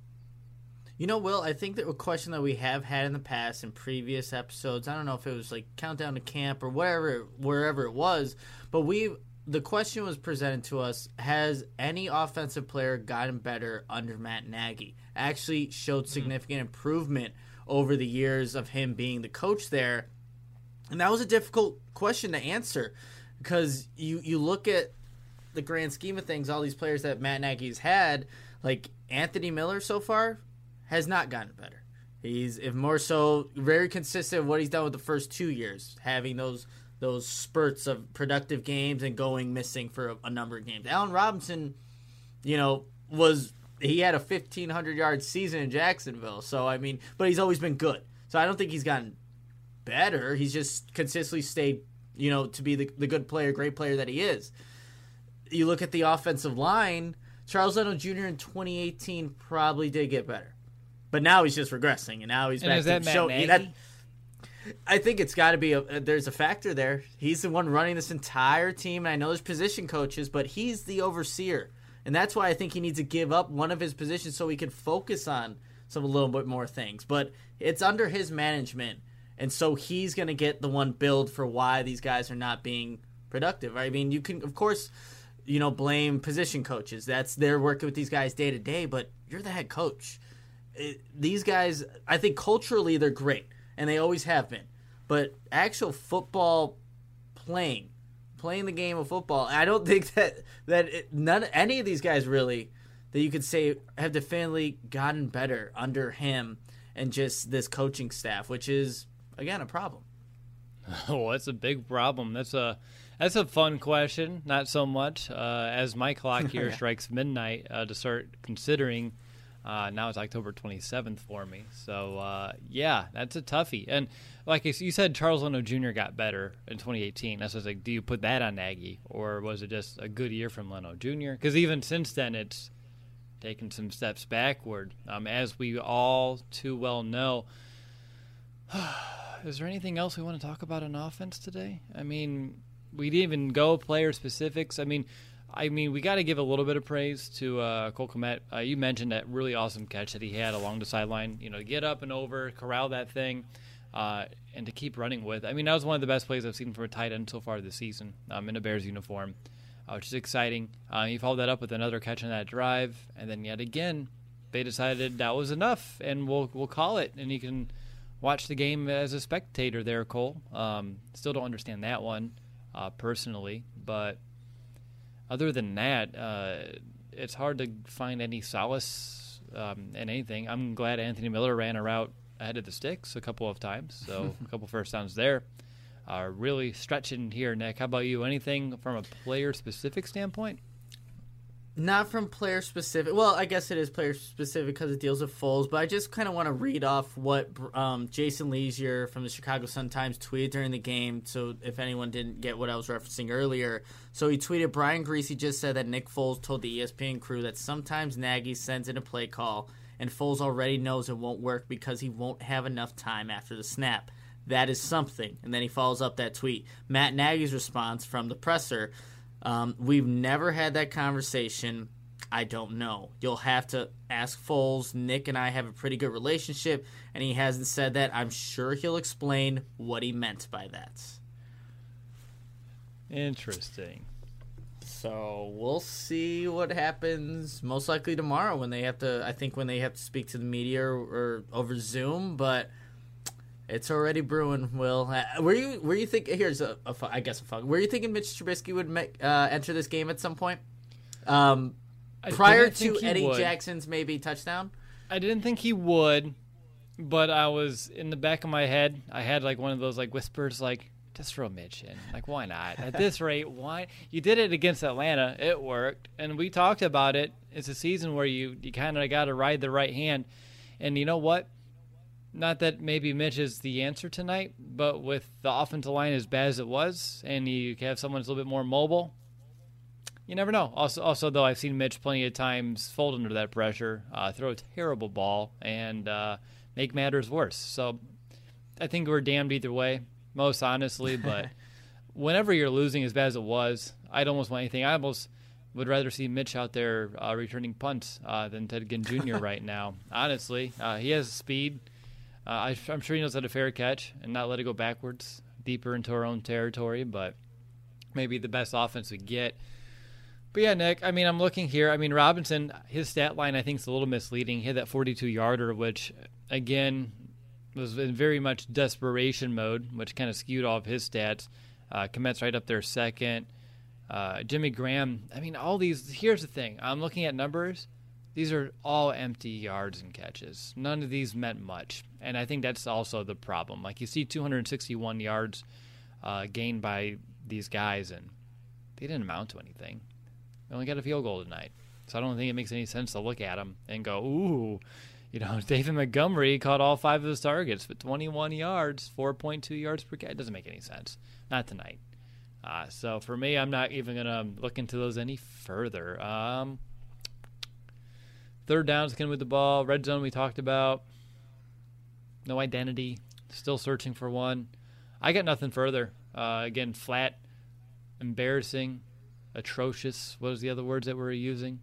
You know, Will, I think that a question that we have had in the past in previous episodes, I don't know if it was like Countdown to Camp or wherever, wherever it was, but we the question was presented to us, has any offensive player gotten better under Matt Nagy? Actually showed significant mm-hmm. improvement over the years of him being the coach there. And that was a difficult question to answer because you, you look at the grand scheme of things, all these players that Matt Nagy's had, like Anthony Miller so far has not gotten better. He's, if more so, very consistent with what he's done with the first two years, having those those spurts of productive games and going missing for a, a number of games. Allen Robinson, you know, was he had a fifteen hundred yard season in Jacksonville. So, I mean, but he's always been good. So I don't think he's gotten better. He's just consistently stayed, you know, to be the, the good player, great player that he is. You look at the offensive line, Charles Leno Junior in twenty eighteen probably did get better. But now he's just regressing, and now he's and back is to that Matt show. Nagy? That, I think it's got to be a. There's a factor there. He's the one running this entire team, and I know there's position coaches, but he's the overseer, and that's why I think he needs to give up one of his positions so he can focus on some a little bit more things. But it's under his management, and so he's going to get the one billed for why these guys are not being productive. I mean, you can of course, you know, blame position coaches. That's they're working with these guys day to day, but you're the head coach. It, these guys, I think culturally they're great. And they always have been. But actual football playing, playing the game of football, I don't think that that it, none any of these guys really that you could say have definitively gotten better under him and just this coaching staff, which is, again, a problem. Oh, that's a big problem. That's a that's a fun question. Not so much uh, as my clock here Yeah. strikes midnight uh, to start considering. Uh, now it's October twenty-seventh for me. So, uh, yeah, that's a toughie. And like you said, Charles Leno Junior got better in twenty eighteen. That's just like, do you put that on Nagy? Or was it just a good year from Leno Junior? Because even since then, it's taken some steps backward. Um, as we all too well know. Is there anything else we want to talk about on offense today? I mean, we didn't even go player specifics. I mean, I mean, we got to give a little bit of praise to uh, Cole Kmet. Uh, you mentioned that really awesome catch that he had along the sideline. You know, to get up and over, corral that thing, uh, and to keep running with. I mean, that was one of the best plays I've seen from a tight end so far this season um, in a Bears uniform, uh, which is exciting. Uh, he followed that up with another catch on that drive, and then yet again, they decided that was enough, and we'll we'll call it, and you can watch the game as a spectator there, Cole. Um, still don't understand that one uh, personally, but other than that, uh, it's hard to find any solace um, in anything. I'm glad Anthony Miller ran a route ahead of the sticks a couple of times, so a couple first downs there. Uh, really stretching here, Nick. How about you? Anything from a player-specific standpoint? Not from player specific. Well, I guess it is player specific because it deals with Foles, but I just kind of want to read off what um, Jason Leasier from the Chicago Sun-Times tweeted during the game. So if anyone didn't get what I was referencing earlier, so he tweeted, Brian Greasy just said that Nick Foles told the E S P N crew that sometimes Nagy sends in a play call and Foles already knows it won't work because he won't have enough time after the snap. That is something. And then he follows up that tweet. Matt Nagy's response from the presser. Um, we've never had that conversation. I don't know. You'll have to ask Foles. Nick and I have a pretty good relationship, and he hasn't said that. I'm sure he'll explain what he meant by that. Interesting. So we'll see what happens most likely tomorrow when they have to, I think when they have to speak to the media or, or over Zoom, but it's already brewing, Will. Uh, were you were you think here's a, a fu- I guess a fun. Were you thinking Mitch Trubisky would make, uh, enter this game at some point? Um, I prior didn't think to he Eddie would. Jackson's maybe touchdown? I didn't think he would, but I was in the back of my head. I had like one of those like whispers, like just throw Mitch in. Like why not? At this rate, why? You did it against Atlanta. It worked, and we talked about it. It's a season where you you kind of got to ride the right hand, and you know what? Not that maybe Mitch is the answer tonight, but with the offensive line as bad as it was, and you have someone who's a little bit more mobile, you never know. Also, also though, I've seen Mitch plenty of times fold under that pressure, uh, throw a terrible ball, and uh, make matters worse. So I think we're damned either way, most honestly. But whenever you're losing as bad as it was, I'd almost want anything. I almost would rather see Mitch out there uh, returning punts uh, than Ted Ginn Junior right now. Honestly, uh, he has speed. Uh, I, I'm sure he knows how to fair catch and not let it go backwards, deeper into our own territory, but maybe the best offense we get. But yeah, Nick, I mean, I'm looking here. I mean, Robinson, his stat line I think is a little misleading. He had that forty-two yarder, which, again, was in very much desperation mode, which kind of skewed all of his stats. Uh, Komet's right up there second. Uh, Jimmy Graham, I mean, all these, here's the thing. I'm looking at numbers. These are all empty yards and catches. None of these meant much. And I think that's also the problem. Like, you see two hundred sixty-one yards uh, gained by these guys, and they didn't amount to anything. They only got a field goal tonight. So I don't think it makes any sense to look at them and go, ooh, you know, David Montgomery caught all five of his targets for twenty-one yards, four point two yards per catch. It doesn't make any sense. Not tonight. Uh, so for me, I'm not even going to look into those any further. Um... Third down, again with the ball. Red zone we talked about. No identity. Still searching for one. I got nothing further. Uh, again, flat, embarrassing, atrocious. What was the other words that we were using?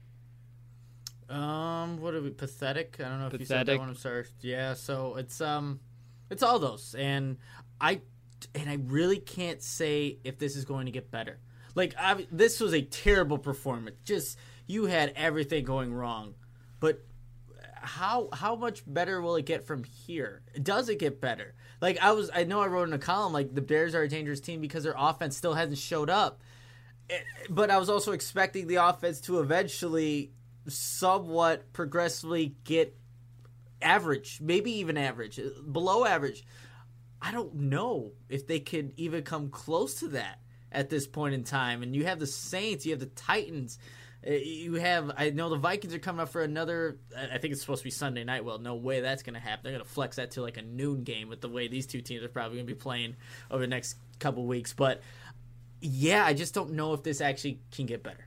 Um, what are we? Pathetic. I don't know if you said that Pathetic. one. I'm sorry. Yeah. So it's um, it's all those, and I, and I really can't say if this is going to get better. Like I, this was a terrible performance. Just you had everything going wrong, but how how much better will it get from here? Does it get better? Like I was, I know I wrote in a column like the Bears are a dangerous team because their offense still hasn't showed up, It- but I was also expecting the offense to eventually, somewhat progressively get average, maybe even average, below average. I don't know if they could even come close to that at this point in time. And you have the Saints, you have the Titans, uh, you have, I know the Vikings are coming up for another, I think it's supposed to be Sunday night. Well, no way that's going to happen. They're going to flex that to like a noon game with the way these two teams are probably going to be playing over the next couple weeks. But yeah, I just don't know if this actually can get better.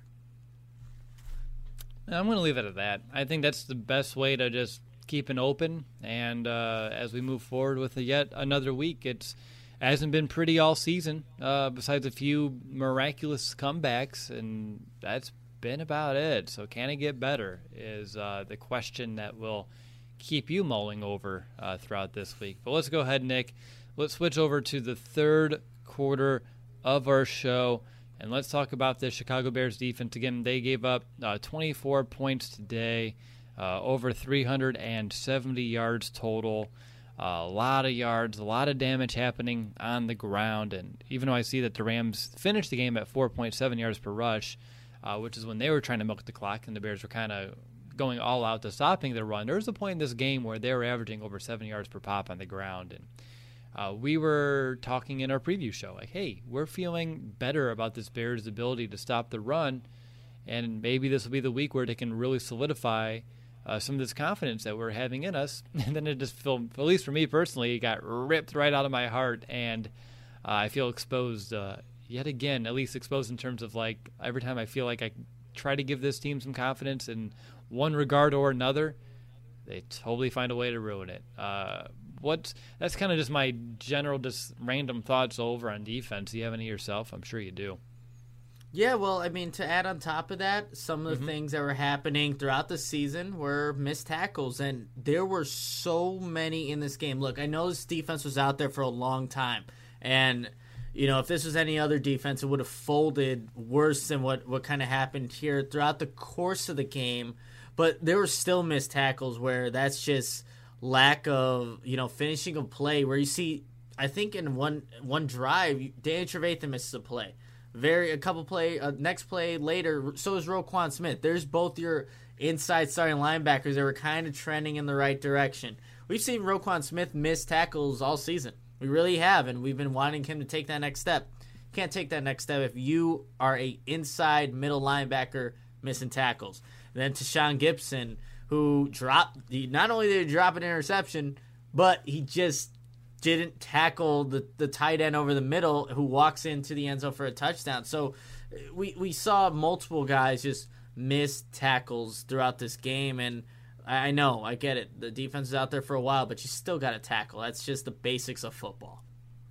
I'm going to leave it at that. I think that's the best way to just keep it open. And uh, as we move forward with yet another week, it's hasn't been pretty all season, uh, besides a few miraculous comebacks, and that's been about it. So can it get better is uh, the question that will keep you mulling over uh, throughout this week. But let's go ahead, Nick. Let's switch over to the third quarter of our show. And let's talk about the Chicago Bears defense. Again, they gave up uh, twenty-four points today, uh, over three hundred seventy yards total. Uh, a lot of yards, a lot of damage happening on the ground. And even though I see that the Rams finished the game at four point seven yards per rush, uh, which is when they were trying to milk the clock and the Bears were kind of going all out to stopping the run, there was a point in this game where they were averaging over seven yards per pop on the ground. And Uh, we were talking in our preview show, like, hey, we're feeling better about this Bears' ability to stop the run, and maybe this will be the week where they can really solidify uh, some of this confidence that we're having in us. And then it just felt, at least for me personally, it got ripped right out of my heart, and uh, I feel exposed uh, yet again, at least exposed in terms of, like, every time I feel like I try to give this team some confidence in one regard or another, they totally find a way to ruin it. Uh, What that's kind of just my general, just random thoughts over on defense. Do you have any yourself? I'm sure you do. Yeah, well, I mean, to add on top of that, some of the Mm-hmm. things that were happening throughout the season were missed tackles, and there were so many in this game. Look, I know this defense was out there for a long time, and, you know, if this was any other defense, it would have folded worse than what, what kind of happened here throughout the course of the game, but there were still missed tackles where that's just lack of, you know, finishing a play where you see, I think in one one drive, Danny Trevathan misses a play. Very a couple play uh, next play later, so is Roquan Smith. There's both your inside starting linebackers that were kind of trending in the right direction. We've seen Roquan Smith miss tackles all season. We really have, and we've been wanting him to take that next step. You can't take that next step if you are a inside middle linebacker missing tackles. And then Tashawn Gibson, who dropped, he, not only did he drop an interception, but he just didn't tackle the, the tight end over the middle who walks into the end zone for a touchdown. So we, we saw multiple guys just miss tackles throughout this game, and I, I know, I get it. The defense is out there for a while, but you still got to tackle. That's just the basics of football.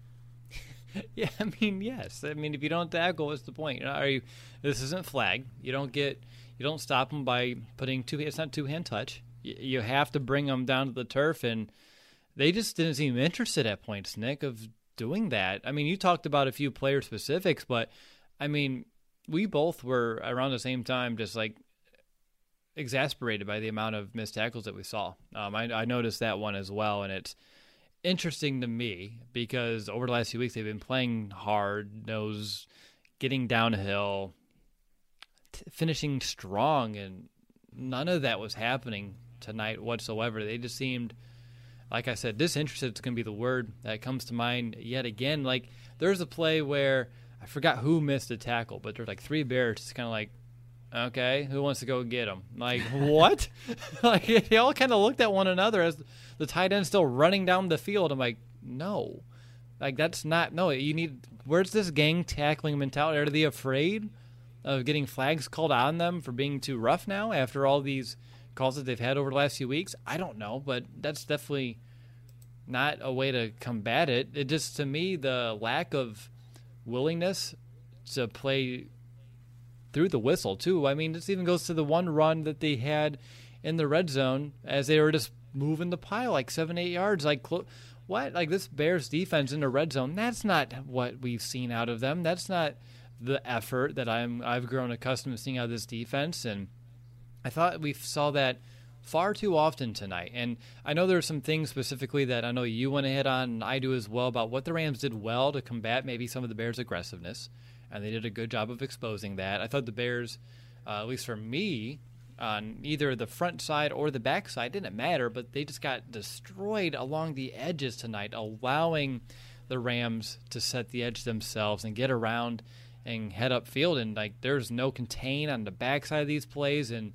Yeah, I mean, yes. I mean, if you don't tackle, what's the point? You know, are you? This isn't flag. You don't get. You don't stop them by putting two. It's not two hand touch. You, you have to bring them down to the turf, and they just didn't seem interested at points, Nick, of doing that. I mean, you talked about a few player specifics, but I mean, we both were around the same time, just like exasperated by the amount of missed tackles that we saw. Um, I, I noticed that one as well, and it's interesting to me because over the last few weeks they've been playing hard, nose, getting downhill, t- finishing strong, and none of that was happening tonight whatsoever. They just seemed, like I said, disinterested is going to be the word that comes to mind yet again. Like, there's a play where I forgot who missed a tackle, but there's like three Bears just kind of like, okay, who wants to go get him? Like, what? Like, they all kind of looked at one another as the tight end still running down the field. I'm like, no. Like, that's not, no, you need, where's this gang tackling mentality? Are they afraid of getting flags called on them for being too rough now after all these calls that they've had over the last few weeks? I don't know, but that's definitely not a way to combat it. It just, to me, the lack of willingness to play through the whistle, too. I mean, this even goes to the one run that they had in the red zone as they were just moving the pile like seven, eight yards. Like, clo- what? Like, this Bears defense in the red zone, that's not what we've seen out of them. That's not the effort that I'm, I've grown accustomed to seeing out of this defense. And I thought we saw that far too often tonight. And I know there are some things specifically that I know you want to hit on, and I do as well, about what the Rams did well to combat maybe some of the Bears' aggressiveness. And they did a good job of exposing that. I thought the Bears, uh, at least for me, on either the front side or the back side. Didn't matter, but they just got destroyed along the edges tonight, allowing the Rams to set the edge themselves and get around and head upfield. And like, there's no contain on the backside of these plays, and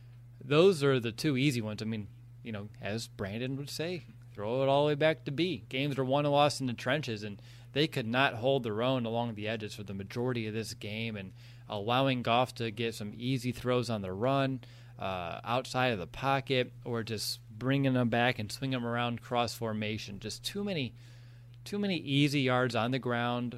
those are the two easy ones. I mean, you know, as Brandon would say, throw it all the way back to B. Games are won and lost in the trenches, and they could not hold their own along the edges for the majority of this game, and allowing Goff to get some easy throws on the run, uh, outside of the pocket, or just bringing them back and swinging them around cross formation. Just too many, too many easy yards on the ground,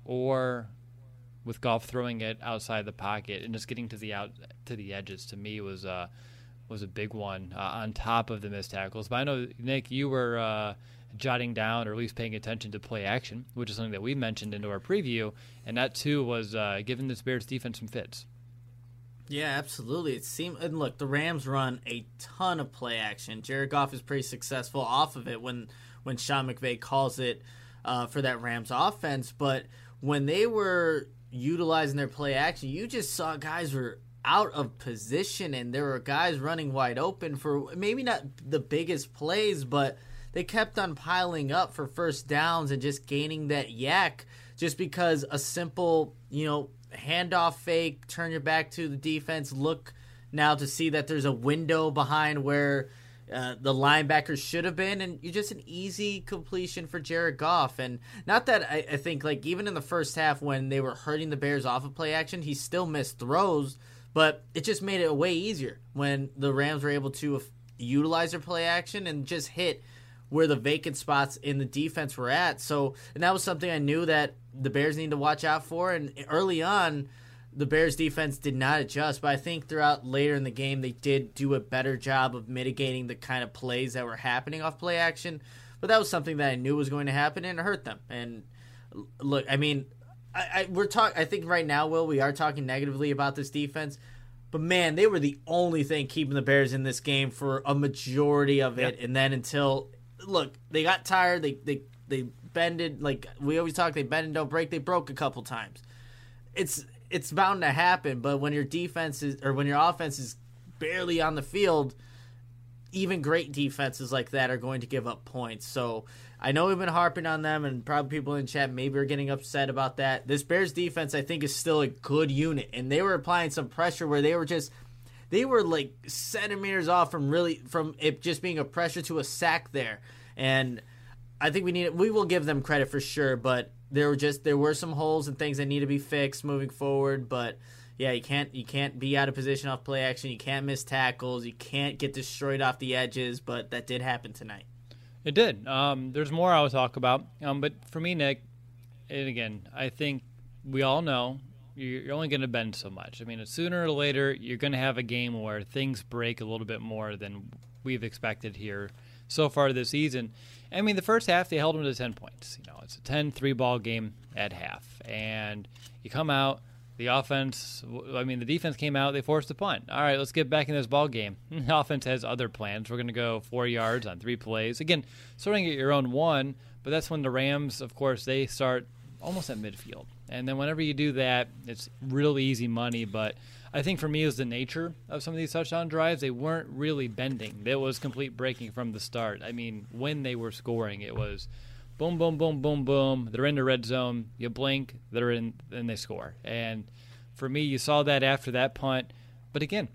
or with Goff throwing it outside the pocket and just getting to the out to the edges. To me, was uh, was a big one uh, on top of the missed tackles. But I know, Nick, you were uh, jotting down or at least paying attention to play action, which is something that we mentioned into our preview, and that too was uh, giving this Bears defense some fits. Yeah, absolutely. It seemed, and look, the Rams run a ton of play action. Jared Goff is pretty successful off of it when when Sean McVay calls it uh, for that Rams offense. But when they were utilizing their play action, you just saw guys were out of position, and there were guys running wide open for maybe not the biggest plays, but they kept on piling up for first downs and just gaining that yak just because a simple, you know, handoff fake, turn your back to the defense, look now to see that there's a window behind where uh, the linebackers should have been, and you're just an easy completion for Jared Goff. And not that I, I think, like, even in the first half when they were hurting the Bears off of play action, he still missed throws, but it just made it way easier when the Rams were able to utilize their play action and just hit where the vacant spots in the defense were at. So, and that was something I knew that the Bears need to watch out for. And early on, the Bears defense did not adjust, but I think throughout later in the game, they did do a better job of mitigating the kind of plays that were happening off play action. But that was something that I knew was going to happen, and it hurt them. And look, I mean, I, I we're talk. I think right now, Will, we are talking negatively about this defense. But, man, they were the only thing keeping the Bears in this game for a majority of it. Yep. And then until – look, they got tired. They they they bended. Like we always talk, they bend and don't break. They broke a couple times. It's it's bound to happen. But when your defense is, or when your offense is barely on the field, even great defenses like that are going to give up points. So I know we've been harping on them, and probably people in chat maybe are getting upset about that. This Bears defense, I think, is still a good unit, and they were applying some pressure where they were just they were like centimeters off from really from it just being a pressure to a sack there. And I think we need we will give them credit for sure, but there were just there were some holes and things that need to be fixed moving forward. But yeah, you can't you can't be out of position off play action. You can't miss tackles. You can't get destroyed off the edges. But that did happen tonight. It did. Um, there's more I will talk about. Um, but for me, Nick, and again, I think we all know you're only going to bend so much. I mean, sooner or later, you're going to have a game where things break a little bit more than we've expected here so far this season. I mean, the first half, they held them to ten points. You know, it's a ten three ball game at half. And you come out, the offense, I mean, the defense came out, they forced a punt. All right, let's get back in this ball game. The offense has other plans. We're going to go four yards on three plays. Again, starting at your own one, but that's when the Rams, of course, they start almost at midfield. And then whenever you do that, it's real easy money. But I think for me, it was the nature of some of these touchdown drives. They weren't really bending. It was complete breaking from the start. I mean, when they were scoring, it was boom, boom, boom, boom, boom. They're in the red zone. You blink, they're in, and they score. And for me, you saw that after that punt. But again,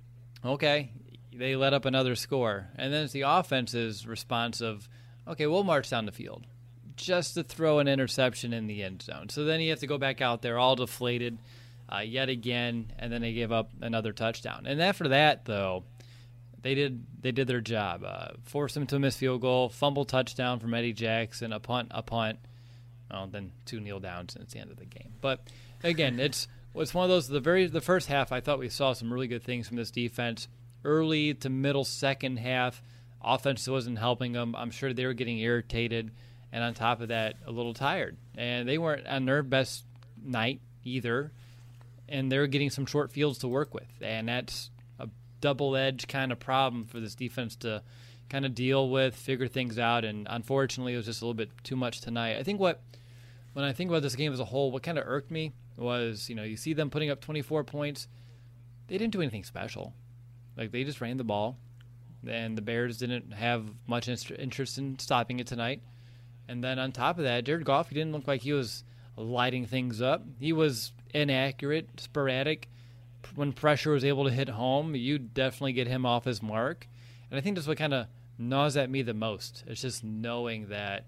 okay, they let up another score. And then it's the offense's response of, okay, we'll march down the field just to throw an interception in the end zone. So then you have to go back out there all deflated uh, yet again, and then they give up another touchdown. And after that, though, they did they did their job. Uh, force them to a missed field goal, fumble touchdown from Eddie Jackson, a punt, a punt. Well, then two kneel downs, and it's the end of the game. But again, it's it's one of those. The very the first half, I thought we saw some really good things from this defense. Early to middle second half, offense wasn't helping them. I'm sure they were getting irritated. And on top of that, a little tired. And they weren't on their best night either. And they're getting some short fields to work with. And that's a double-edged kind of problem for this defense to kind of deal with, figure things out. And unfortunately, it was just a little bit too much tonight. I think what, when I think about this game as a whole, what kind of irked me was, you know, you see them putting up twenty-four points. They didn't do anything special. Like, they just ran the ball, and the Bears didn't have much inst- interest in stopping it tonight. And then on top of that, Jared Goff, he didn't look like he was lighting things up. He was inaccurate, sporadic. When pressure was able to hit home, you definitely get him off his mark. And I think that's what kind of gnaws at me the most. It's just knowing that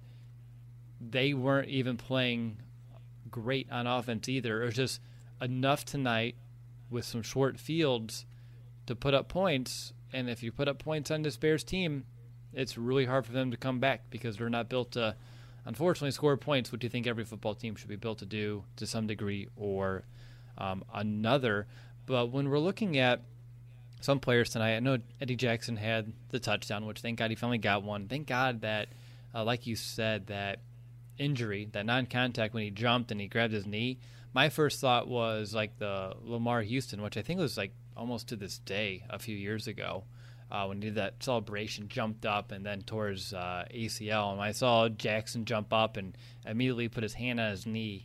they weren't even playing great on offense either. It was just enough tonight with some short fields to put up points. And if you put up points on this Bears team, it's really hard for them to come back because they're not built to, unfortunately, score points, which you think every football team should be built to do to some degree or um, another. But when we're looking at some players tonight, I know Eddie Jackson had the touchdown, which thank God he finally got one. Thank God that, uh, like you said, that injury, that non-contact when he jumped and he grabbed his knee. My first thought was like the Lamar Houston, which I think was like almost to this day a few years ago uh, when he did that celebration, jumped up and then tore his uh, A C L. And I saw Jackson jump up and immediately put his hand on his knee.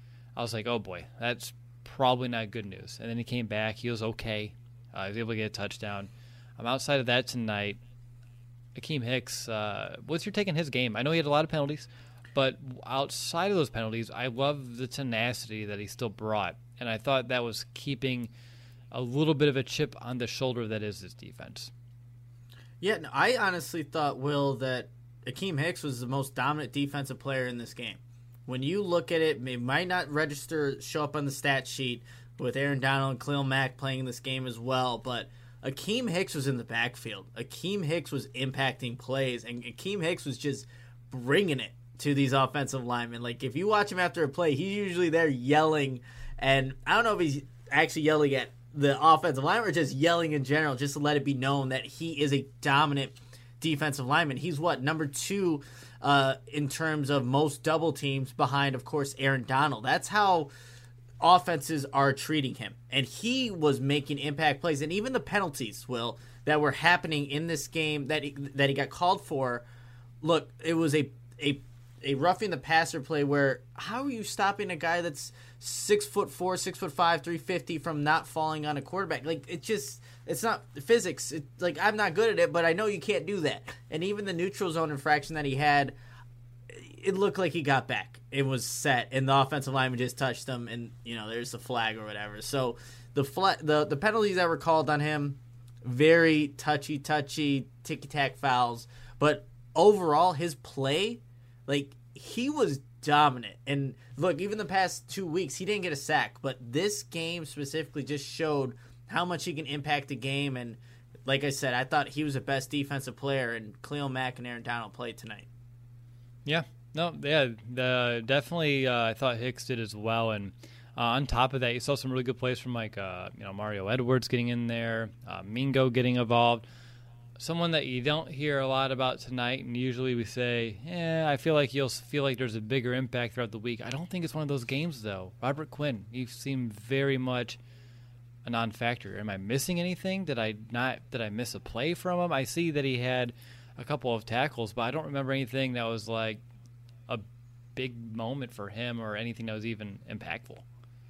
I was like, oh boy, that's probably not good news. And then he came back. He was okay. Uh, he was able to get a touchdown. Um, outside of that tonight, Akeem Hicks, uh, what's your take on his game? I know he had a lot of penalties, but outside of those penalties, I love the tenacity that he still brought. And I thought that was keeping a little bit of a chip on the shoulder that is his defense. Yeah, no, I honestly thought, Will, that Akeem Hicks was the most dominant defensive player in this game. When you look at it, it might not register, show up on the stat sheet with Aaron Donald and Khalil Mack playing in this game as well, but Akeem Hicks was in the backfield. Akeem Hicks was impacting plays, and Akeem Hicks was just bringing it to these offensive linemen. Like, if you watch him after a play, he's usually there yelling, and I don't know if he's actually yelling at the offensive lineman or just yelling in general, just to let it be known that he is a dominant defensive lineman. He's what, number two uh, in terms of most double teams behind, of course, Aaron Donald. That's how offenses are treating him. And he was making impact plays. And even the penalties, Will, that were happening in this game that he, that he got called for, look, it was a a a roughing the passer play where how are you stopping a guy that's six foot four, six foot five, three fifty from not falling on a quarterback? Like, it just, it's not physics. It, like, I'm not good at it, but I know you can't do that. And even the neutral zone infraction that he had, it looked like he got back. It was set, and the offensive lineman just touched him, and, you know, there's the flag or whatever. So the fla- the the penalties that were called on him, very touchy, touchy, ticky-tack fouls. But overall, his play, like, he was dominant. And look, even the past two weeks, he didn't get a sack. But this game specifically just showed how much he can impact the game. And like I said, I thought he was the best defensive player, and Khalil Mack and Aaron Donald played tonight. Yeah, no, yeah, the, definitely. Uh, I thought Hicks did as well, and uh, on top of that, you saw some really good plays from like uh, you know Mario Edwards getting in there, uh, Mingo getting involved. Someone that you don't hear a lot about tonight, and usually we say, "Yeah, I feel like you'll feel like there's a bigger impact throughout the week." I don't think it's one of those games though. Robert Quinn, he seemed very much a non-factor. Am I missing anything? Did I not? Did I miss a play from him? I see that he had a couple of tackles, but I don't remember anything that was like a big moment for him or anything that was even impactful.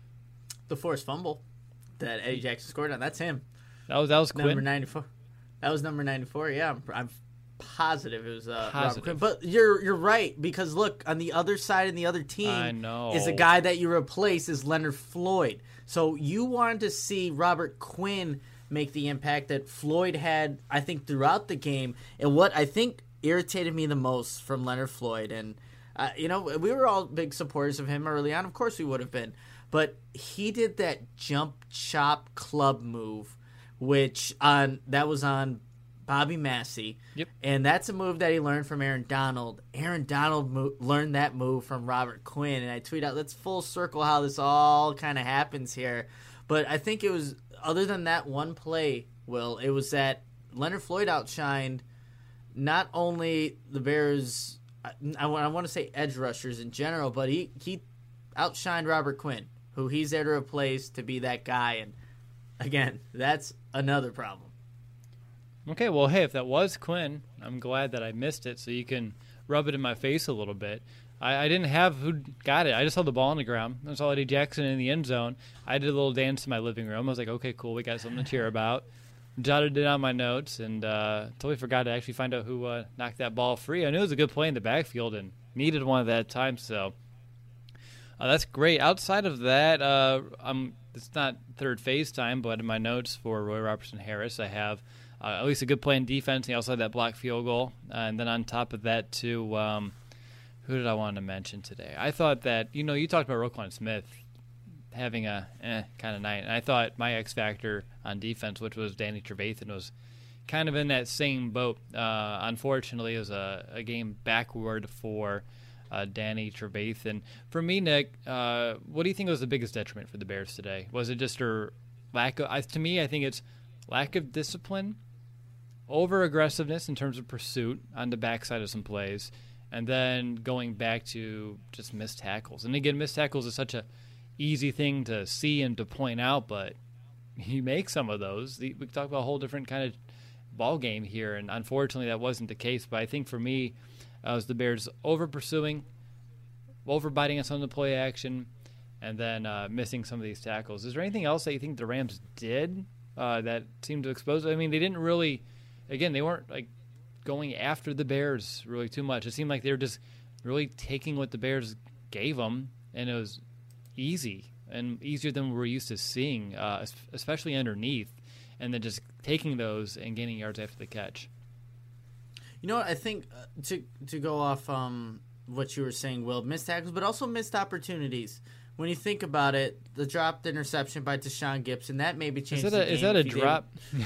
The forced fumble that Eddie Jackson scored on, that's him. That was that was Number Quinn. ninety-four. That was number ninety-four. Yeah, I'm, I'm positive it was uh, Positive. Robert Quinn. But you're you're right, because look, on the other side and the other team I know. is a guy that you replace is Leonard Floyd. So you wanted to see Robert Quinn make the impact that Floyd had, I think, throughout the game. And what I think irritated me the most from Leonard Floyd, and uh, you know, we were all big supporters of him early on. Of course we would have been. But he did that jump chop club move, which on that was on Bobby Massey. Yep. And that's a move that he learned from Aaron Donald. Aaron Donald mo- learned that move from Robert Quinn. And I tweet out, let's full circle how this all kind of happens here. But I think it was, other than that one play, Will, it was that Leonard Floyd outshined not only the Bears, I, I want to say edge rushers in general, but he, he outshined Robert Quinn, who he's there to replace to be that guy. And again, that's another problem. Okay, well, hey, if that was Quinn, I'm glad that I missed it, so you can rub it in my face a little bit. I, I didn't have who got it. I just held the ball on the ground. I saw Eddie Jackson in the end zone. I did a little dance in my living room. I was like, okay, cool, we got something to cheer about. jotted it on my notes and uh, totally forgot to actually find out who uh, knocked that ball free. I knew it was a good play in the backfield and needed one at that time, so uh, that's great. Outside of that, uh, I'm, it's not third phase time, but in my notes for Roy Robertson Harris, I have uh, at least a good play in defense. He also had that block field goal. Uh, and then on top of that, too, um, who did I want to mention today? I thought that, you know, you talked about Roquan Smith having a eh kind of night. And I thought my X factor on defense, which was Danny Trevathan, was kind of in that same boat. Uh, unfortunately, it was a, a game backward for uh, Danny Trevathan. For me, Nick, uh, what do you think was the biggest detriment for the Bears today? Was it just a lack of, I, to me, I think it's lack of discipline, over-aggressiveness in terms of pursuit on the backside of some plays, and then going back to just missed tackles. And again, missed tackles is such a easy thing to see and to point out, but you make some of those. We talk about a whole different kind of ball game here, and unfortunately that wasn't the case. But I think for me, uh, it was the Bears over-pursuing, over-biting us on the play action, and then uh, missing some of these tackles. Is there anything else that you think the Rams did uh, that seemed to expose? I mean, they didn't really, again, they weren't like going after the Bears really too much. It seemed like they were just really taking what the Bears gave them, and it was easy and easier than we're used to seeing, uh, especially underneath, and then just taking those and gaining yards after the catch. You know what? I think uh, to to go off um, what you were saying, Will, missed tackles, but also missed opportunities. When you think about it, the dropped interception by Deshaun Gibson, that maybe changed Is that the a, game. is that a if he drop?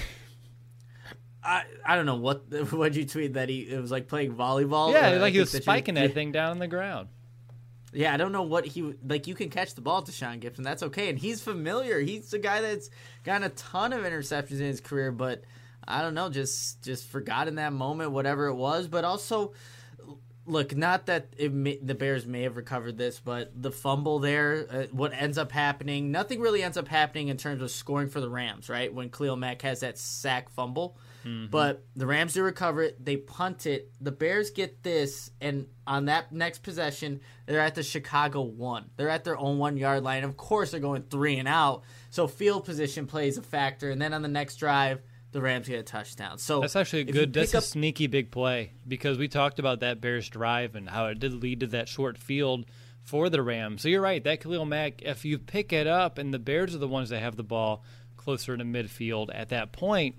I I don't know what what you tweet that he it was like playing volleyball. Yeah, Uh, I like he think was that you- spiking that thing down on the ground. Yeah, I don't know what he like. You can catch the ball to Deshaun Gibson, that's okay, and he's familiar. He's a guy that's gotten a ton of interceptions in his career, but I don't know, just just forgot in that moment, whatever it was. But also, look, not that it may, the Bears may have recovered this, but the fumble there, uh, what ends up happening, nothing really ends up happening in terms of scoring for the Rams, right? When Khalil Mack has that sack fumble. Mm-hmm. But the Rams do recover it. They punt it. The Bears get this, and on that next possession, they're at the Chicago one. They're at their own one-yard line. Of course, they're going three and out, so field position plays a factor. And then on the next drive, the Rams get a touchdown. So that's actually a if you good. That's pick a up- sneaky big play because we talked about that Bears drive and how it did lead to that short field for the Rams. So you're right. That Khalil Mack, if you pick it up, and the Bears are the ones that have the ball closer to midfield at that point,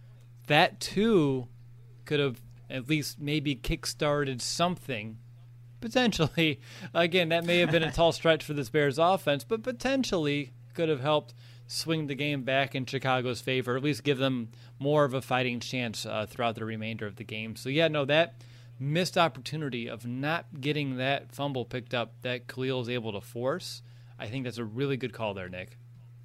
that too could have at least maybe kick-started something. Potentially, again, that may have been a tall stretch for this Bears offense, but potentially could have helped swing the game back in Chicago's favor, or at least give them more of a fighting chance uh, throughout the remainder of the game. So, yeah, no, that missed opportunity of not getting that fumble picked up that Khalil is able to force, I think that's a really good call there, Nick.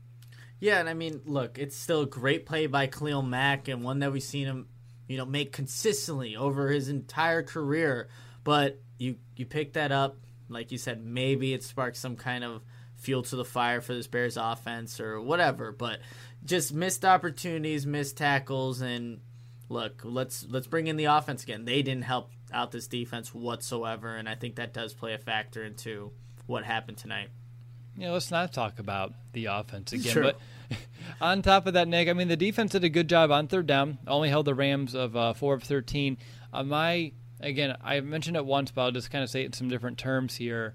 Yeah, and I mean, look, it's still a great play by Khalil Mack and one that we've seen him, you know, make consistently over his entire career. But you you pick that up, like you said, maybe it sparks some kind of fuel to the fire for this Bears offense or whatever. But just missed opportunities, missed tackles, and look, let's let's bring in the offense again. They didn't help out this defense whatsoever, and I think that does play a factor into what happened tonight. Yeah, let's not talk about the offense again. Sure. But on top of that, Nick, I mean, the defense did a good job on third down. Only held the Rams of uh, four of thirteen. Uh, my, again, I mentioned it once, but I'll just kind of say it in some different terms here.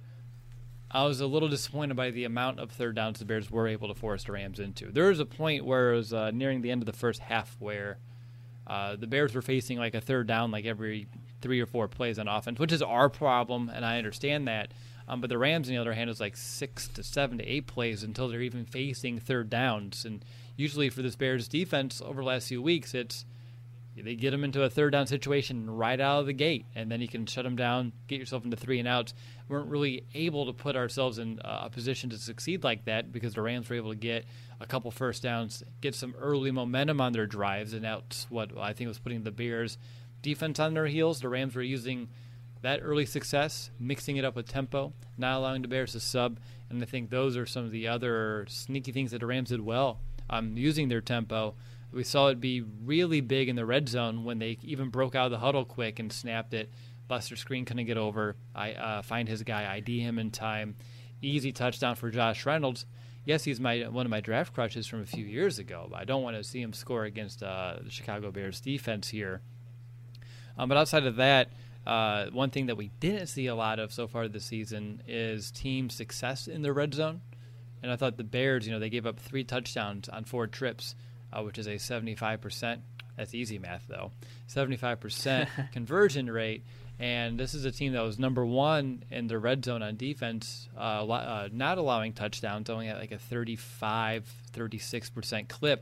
I was a little disappointed by the amount of third downs the Bears were able to force the Rams into. There was a point where it was uh, nearing the end of the first half where uh, the Bears were facing like a third down like every three or four plays on offense, which is our problem, and I understand that. Um, but the Rams, on the other hand, is like six to seven to eight plays until they're even facing third downs. And usually for this Bears defense over the last few weeks, it's they get them into a third down situation right out of the gate, and then you can shut them down, get yourself into three and outs. We weren't really able to put ourselves in a position to succeed like that because the Rams were able to get a couple first downs, get some early momentum on their drives, and that's what I think was putting the Bears defense on their heels. The Rams were using that early success, mixing it up with tempo, not allowing the Bears to sub, and I think those are some of the other sneaky things that the Rams did well, um, using their tempo. We saw it be really big in the red zone when they even broke out of the huddle quick and snapped it. Buster Screen couldn't get over. I uh, find his guy, I D him in time. Easy touchdown for Josh Reynolds. yes, he's my one of my draft crushes from a few years ago, but I don't want to see him score against uh, the Chicago Bears defense here. Um, but outside of that, uh, one thing that we didn't see a lot of so far this season is team success in the red zone. And I thought the Bears, you know, they gave up three touchdowns on four trips, uh, which is a seventy-five percent. That's easy math, though. seventy-five percent conversion rate. And this is a team that was number one in the red zone on defense, uh, uh, not allowing touchdowns, only at like a thirty-five, thirty-six percent clip.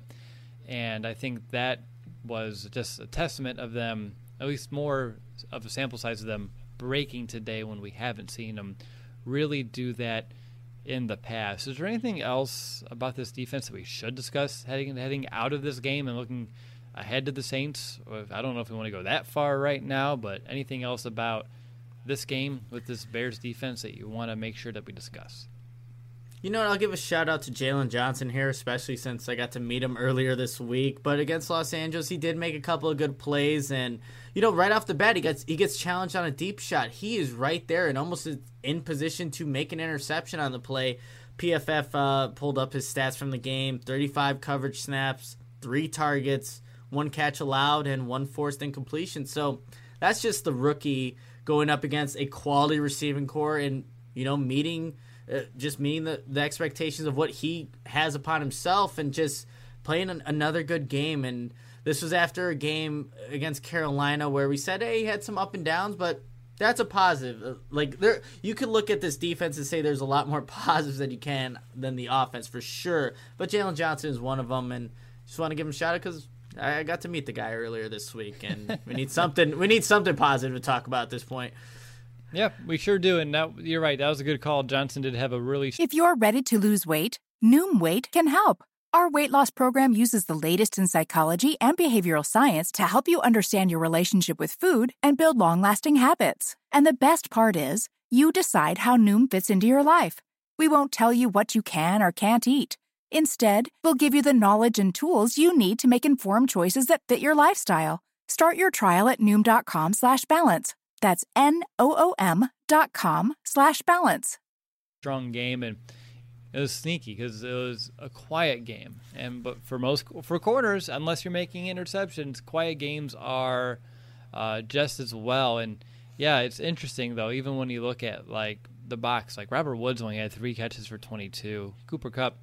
And I think that was just a testament of them, at least more of a sample size of them breaking today when we haven't seen them really do that in the past. Is there anything else about this defense that we should discuss heading heading out of this game and looking ahead to the Saints? I don't know if we want to go that far right now, but anything else about this game with this Bears defense that you want to make sure that we discuss? You know what? I'll give a shout out to Jalen Johnson here, especially since I got to meet him earlier this week. But against Los Angeles, he did make a couple of good plays, and you know, right off the bat, he gets he gets challenged on a deep shot. He is right there and almost in position to make an interception on the play. P F F uh, pulled up his stats from the game: thirty-five coverage snaps, three targets, one catch allowed, and one forced incompletion. So that's just the rookie going up against a quality receiving core and, you know, meeting uh, just meeting the, the expectations of what he has upon himself and just playing an, another good game. And this was after a game against Carolina where we said, hey, he had some up and downs, but that's a positive. Uh, Like there, you could look at this defense and say there's a lot more positives than you can than the offense for sure. But Jalen Johnson is one of them, and just want to give him a shout out because I got to meet the guy earlier this week, and we need something. We need something positive to talk about at this point. Yeah, we sure do. And that, you're right. That was a good call. Johnson did have a really. If you're ready to lose weight, Noom Weight can help. Our weight loss program uses the latest in psychology and behavioral science to help you understand your relationship with food and build long-lasting habits. And the best part is, you decide how Noom fits into your life. We won't tell you what you can or can't eat. Instead, we'll give you the knowledge and tools you need to make informed choices that fit your lifestyle. Start your trial at Noom.com slash balance. That's N-O-O-M dot com slash balance. Strong game, and it was sneaky because it was a quiet game. And but for most for corners, unless you're making interceptions, quiet games are uh, just as well. And yeah, it's interesting though. Even when you look at like the box, like Robert Woods only had three catches for twenty-two. Cooper Kupp,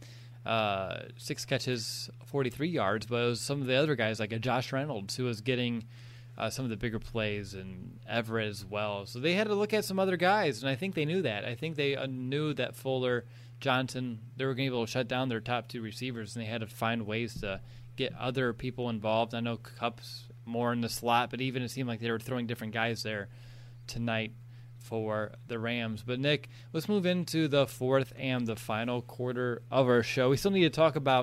uh, six catches, forty-three yards. But it was some of the other guys like a Josh Reynolds who was getting uh, some of the bigger plays, and Everett as well. So they had to look at some other guys, and I think they knew that. I think they uh, knew that Fuller, Johnson, they were going to be able to shut down their top two receivers, and they had to find ways to get other people involved. I know Kupp's more in the slot, but even it seemed like they were throwing different guys there tonight for the Rams. But Nick, let's move into the fourth and the final quarter of our show. We still need to talk about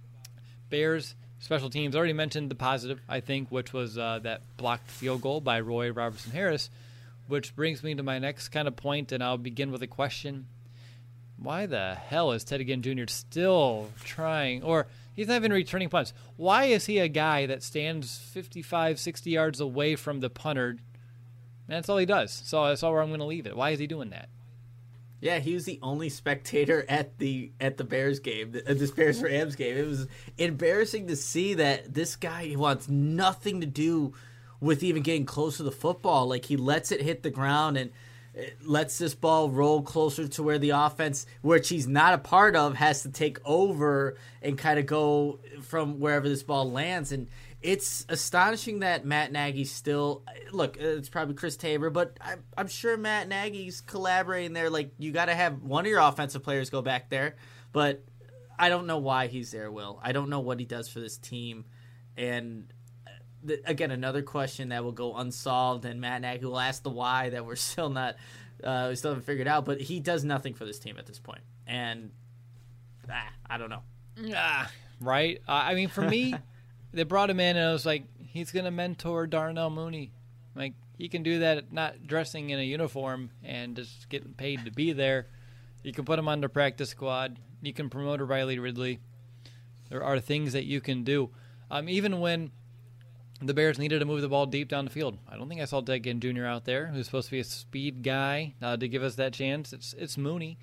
Bears special teams. I already mentioned the positive, I think, which was uh, that blocked field goal by Roy Robertson Harris, which brings me to my next kind of point, and I'll begin with a question. Why the hell is Ted Ginn Junior still trying, or he's not even returning punts? Why is he a guy that stands fifty-five, sixty yards away from the punter? And that's all he does. So that's all where I'm going to leave it. Why is he doing that? Yeah, he was the only spectator at the at the Bears game, at this Bears Rams game. It was embarrassing to see that this guy wants nothing to do with even getting close to the football. Like, he lets it hit the ground and lets this ball roll closer to where the offense, which he's not a part of, has to take over and kind of go from wherever this ball lands. And it's astonishing that Matt Nagy's still – look, it's probably Chris Tabor, but I'm, I'm sure Matt Nagy's collaborating there. Like, you got to have one of your offensive players go back there. But I don't know why he's there, Will. I don't know what he does for this team. And – again, another question that will go unsolved, and Matt Nagy will ask the why that we're still not, uh, we still haven't figured out. But he does nothing for this team at this point, and ah, I don't know. Yeah, right. Uh, I mean, for me, they brought him in, and I was like, he's gonna mentor Darnell Mooney. Like, he can do that, not dressing in a uniform and just getting paid to be there. You can put him on the practice squad. You can promote a Riley Ridley. There are things that you can do, um, even when the Bears needed to move the ball deep down the field. I don't think I saw Ted Ginn Junior out there, who's supposed to be a speed guy, uh, to give us that chance. It's it's Mooney.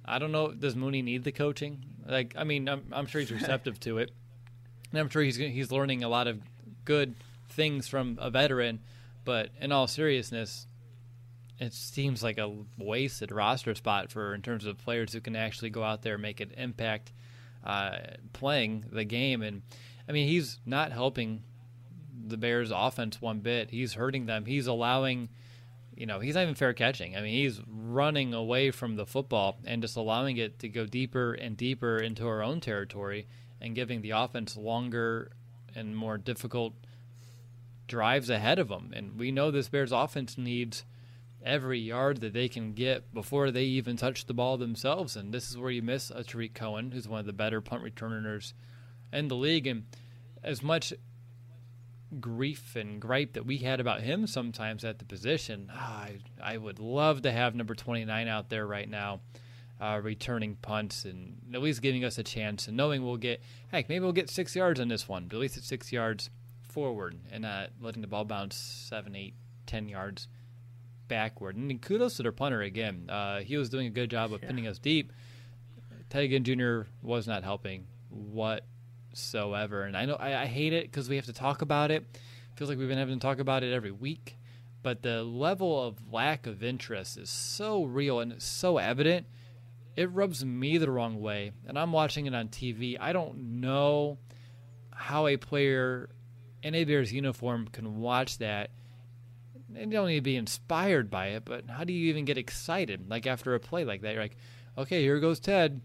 I don't know. Does Mooney need the coaching? Like, I mean, I'm, I'm sure he's receptive to it, and I'm sure he's he's learning a lot of good things from a veteran. But in all seriousness, it seems like a wasted roster spot for in terms of players who can actually go out there and make an impact uh, playing the game. And I mean, he's not helping the Bears' offense one bit. He's hurting them. He's allowing. You know, he's not even fair catching. I mean, he's running away from the football and just allowing it to go deeper and deeper into our own territory and giving the offense longer and more difficult drives ahead of them. And we know this Bears offense needs every yard that they can get before they even touch the ball themselves. And this is where you miss a Tariq Cohen, who's one of the better punt returners in the league. And as much grief and gripe that we had about him sometimes at the position, ah, I, I would love to have number twenty-nine out there right now uh, returning punts and at least giving us a chance and knowing we'll get, heck, maybe we'll get six yards on this one, but at least it's six yards forward and not letting the ball bounce seven, eight, ten yards backward. And kudos to their punter again. Uh, he was doing a good job of Yeah. pinning us deep. Teddy Ginn Junior was not helping what so ever, and I know I, I hate it because we have to talk about it. Feels like we've been having to talk about it every week, but the level of lack of interest is so real and it's so evident. It rubs me the wrong way, and I'm watching it on T V. I don't know how a player in a Bears uniform can watch that. They don't need to be inspired by it, but how do you even get excited? Like after a play like that, you're like, okay, here goes Ted.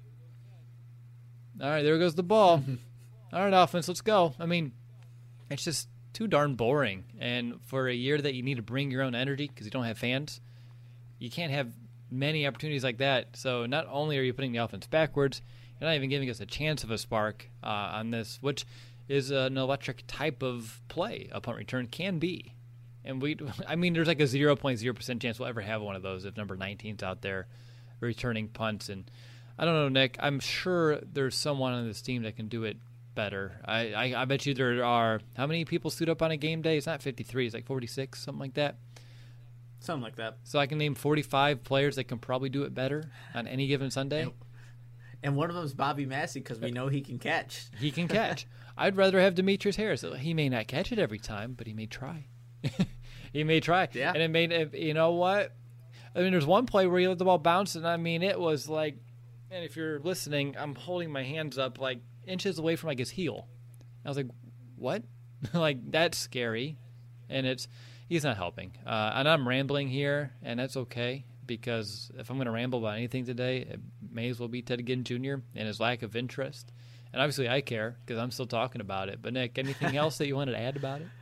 All right, there goes the ball. All right, offense, let's go. I mean, it's just too darn boring. And for a year that you need to bring your own energy because you don't have fans, you can't have many opportunities like that. So not only are you putting the offense backwards, you're not even giving us a chance of a spark uh, on this, which is an electric type of play a punt return can be. And we, I mean, there's like a zero point zero percent chance we'll ever have one of those if number nineteen's out there returning punts. And I don't know, Nick, I'm sure there's someone on this team that can do it better. I, I, I bet you there are, how many people suit up on a game day? It's not fifty-three, it's like forty-six, something like that. Something like that. So I can name forty-five players that can probably do it better on any given Sunday. And, and one of them is Bobby Massey because we know he can catch. He can catch. I'd rather have Demetrius Harris. He may not catch it every time, but he may try. He may try. Yeah. And it made, you know what? I mean, there's one play where he let the ball bounce, and I mean, it was like, and if you're listening, I'm holding my hands up like inches away from like his heel. I was like, what? Like, that's scary. And it's, he's not helping. Uh, and I'm rambling here, and that's okay, because if I'm going to ramble about anything today, it may as well be Ted Ginn Junior and his lack of interest. And obviously I care, because I'm still talking about it. But, Nick, anything else that you wanted to add about it?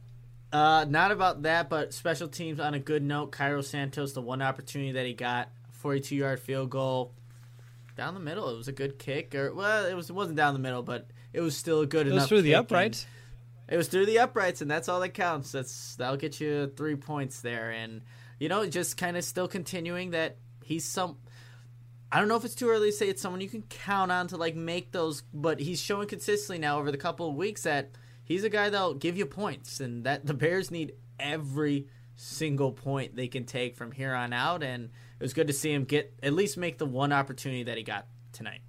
Uh, not about that, but special teams on a good note. Cairo Santos, the one opportunity that he got, forty-two-yard field goal. Down the middle, it was a good kick. Or well, it was it wasn't down the middle, but it was still a good It enough. was through the kick, uprights. and It was through the uprights, and that's all that counts. That's that'll get you three points there, and you know, just kind of still continuing that he's some. I don't know if it's too early to say it's someone you can count on to like make those, but he's showing consistently now over the couple of weeks that he's a guy that'll give you points, and that the Bears need every single point they can take from here on out, and it was good to see him get at least make the one opportunity that he got tonight.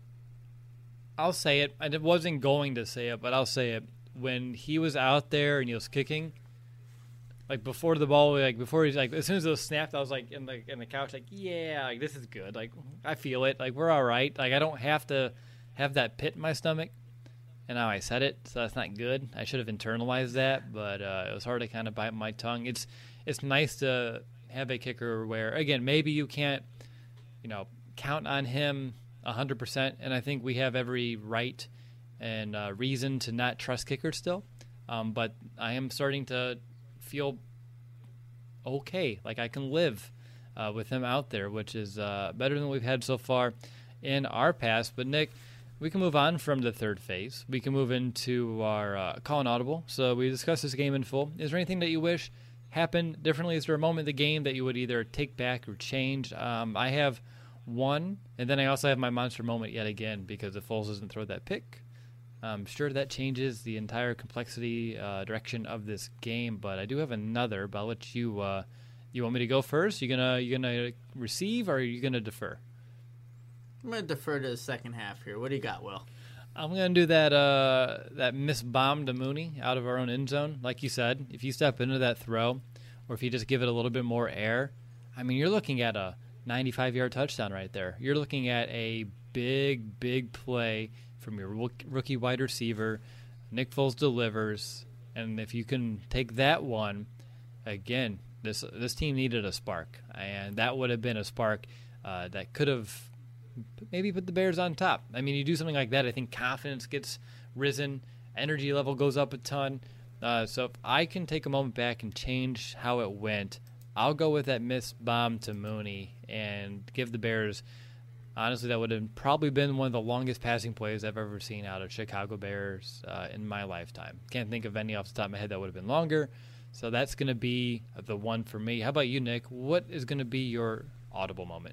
I'll say it. I wasn't going to say it, but I'll say it. When he was out there and he was kicking, like before the ball, like before he's like, as soon as it was snapped, I was like in the in the couch, like, yeah, like this is good. Like I feel it. Like we're all right. Like I don't have to have that pit in my stomach. And now I said it, so that's not good. I should have internalized that, but uh, it was hard to kind of bite my tongue. It's it's nice to have a kicker where, again, maybe you can't, you know, count on him one hundred percent, and I think we have every right and uh, reason to not trust kickers still. Um, but I am starting to feel okay, like I can live uh, with him out there, which is uh, better than we've had so far in our past. But, Nick, we can move on from the third phase. We can move into our uh, call and audible. So we discussed this game in full. Is there anything that you wish happened differently? Is there a moment in the game that you would either take back or change? Um, I have one, and then I also have my monster moment yet again because if Foles doesn't throw that pick, I'm sure that changes the entire complexity uh, direction of this game. But I do have another, but I'll let you. Uh, you want me to go first? You gonna you gonna receive or are you gonna defer? I'm going to defer to the second half here. What do you got, Will? I'm gonna do that uh, that miss bomb to Mooney out of our own end zone. Like you said, if you step into that throw, or if you just give it a little bit more air, I mean, you're looking at a ninety-five-yard touchdown right there. You're looking at a big, big play from your rook- rookie wide receiver. Nick Foles delivers, and if you can take that one, again, this this team needed a spark, and that would have been a spark uh, that could have maybe put the Bears on top. I mean, you do something like that, I think confidence gets risen, energy level goes up a ton. Uh, so if I can take a moment back and change how it went, I'll go with that missed bomb to Mooney and give the Bears. Honestly, that would have probably been one of the longest passing plays I've ever seen out of Chicago Bears uh, in my lifetime. Can't think of any off the top of my head that would have been longer. So that's going to be the one for me. How about you, Nick? What is going to be your audible moment?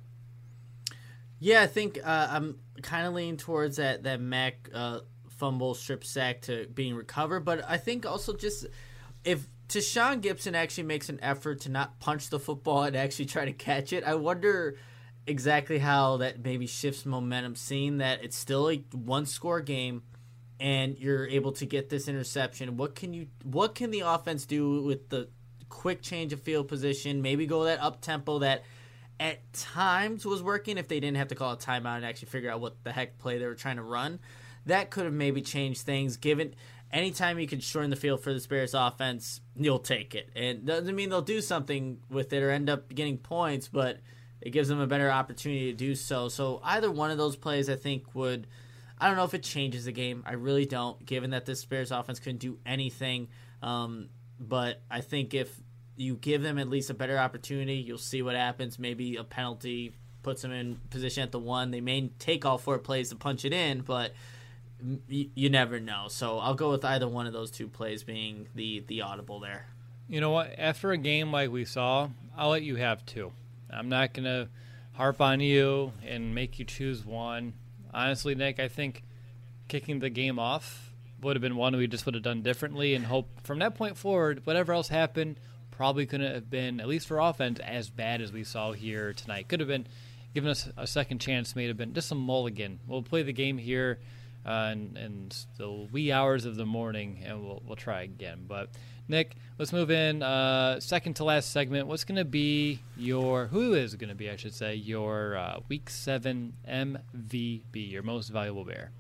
Yeah, I think uh, I'm kind of leaning towards that that Mac uh, fumble strip sack to being recovered, but I think also just if Tashaun Gibson actually makes an effort to not punch the football and actually try to catch it, I wonder exactly how that maybe shifts momentum, seeing that it's still a one-score game and you're able to get this interception. What can you? What can the offense do with the quick change of field position? Maybe go that up tempo that at times was working if they didn't have to call a timeout and actually figure out what the heck play they were trying to run. That could have maybe changed things. Given anytime you can shorten the field for the Bears offense, you'll take it. And doesn't mean they'll do something with it or end up getting points, but it gives them a better opportunity to do so. So either one of those plays I think would, I don't know if it changes the game. I really don't, given that this Bears offense couldn't do anything. Um, but I think if you give them at least a better opportunity, you'll see what happens. Maybe a penalty puts them in position at the one. They may take all four plays to punch it in, but you, you never know. So I'll go with either one of those two plays being the, the audible there. You know what? After a game like we saw, I'll let you have two. I'm not going to harp on you and make you choose one. Honestly, Nick, I think kicking the game off would have been one we just would have done differently and hope from that point forward, whatever else happened, probably couldn't have been, at least for offense, as bad as we saw here tonight. Could have been given us a second chance, may have been just a mulligan. We'll play the game here uh, in, in the wee hours of the morning, and we'll we'll try again. But, Nick, let's move in. Uh, second to last segment, what's going to be your, who is going to be, I should say, your uh, Week seven M V P, your most valuable Bear?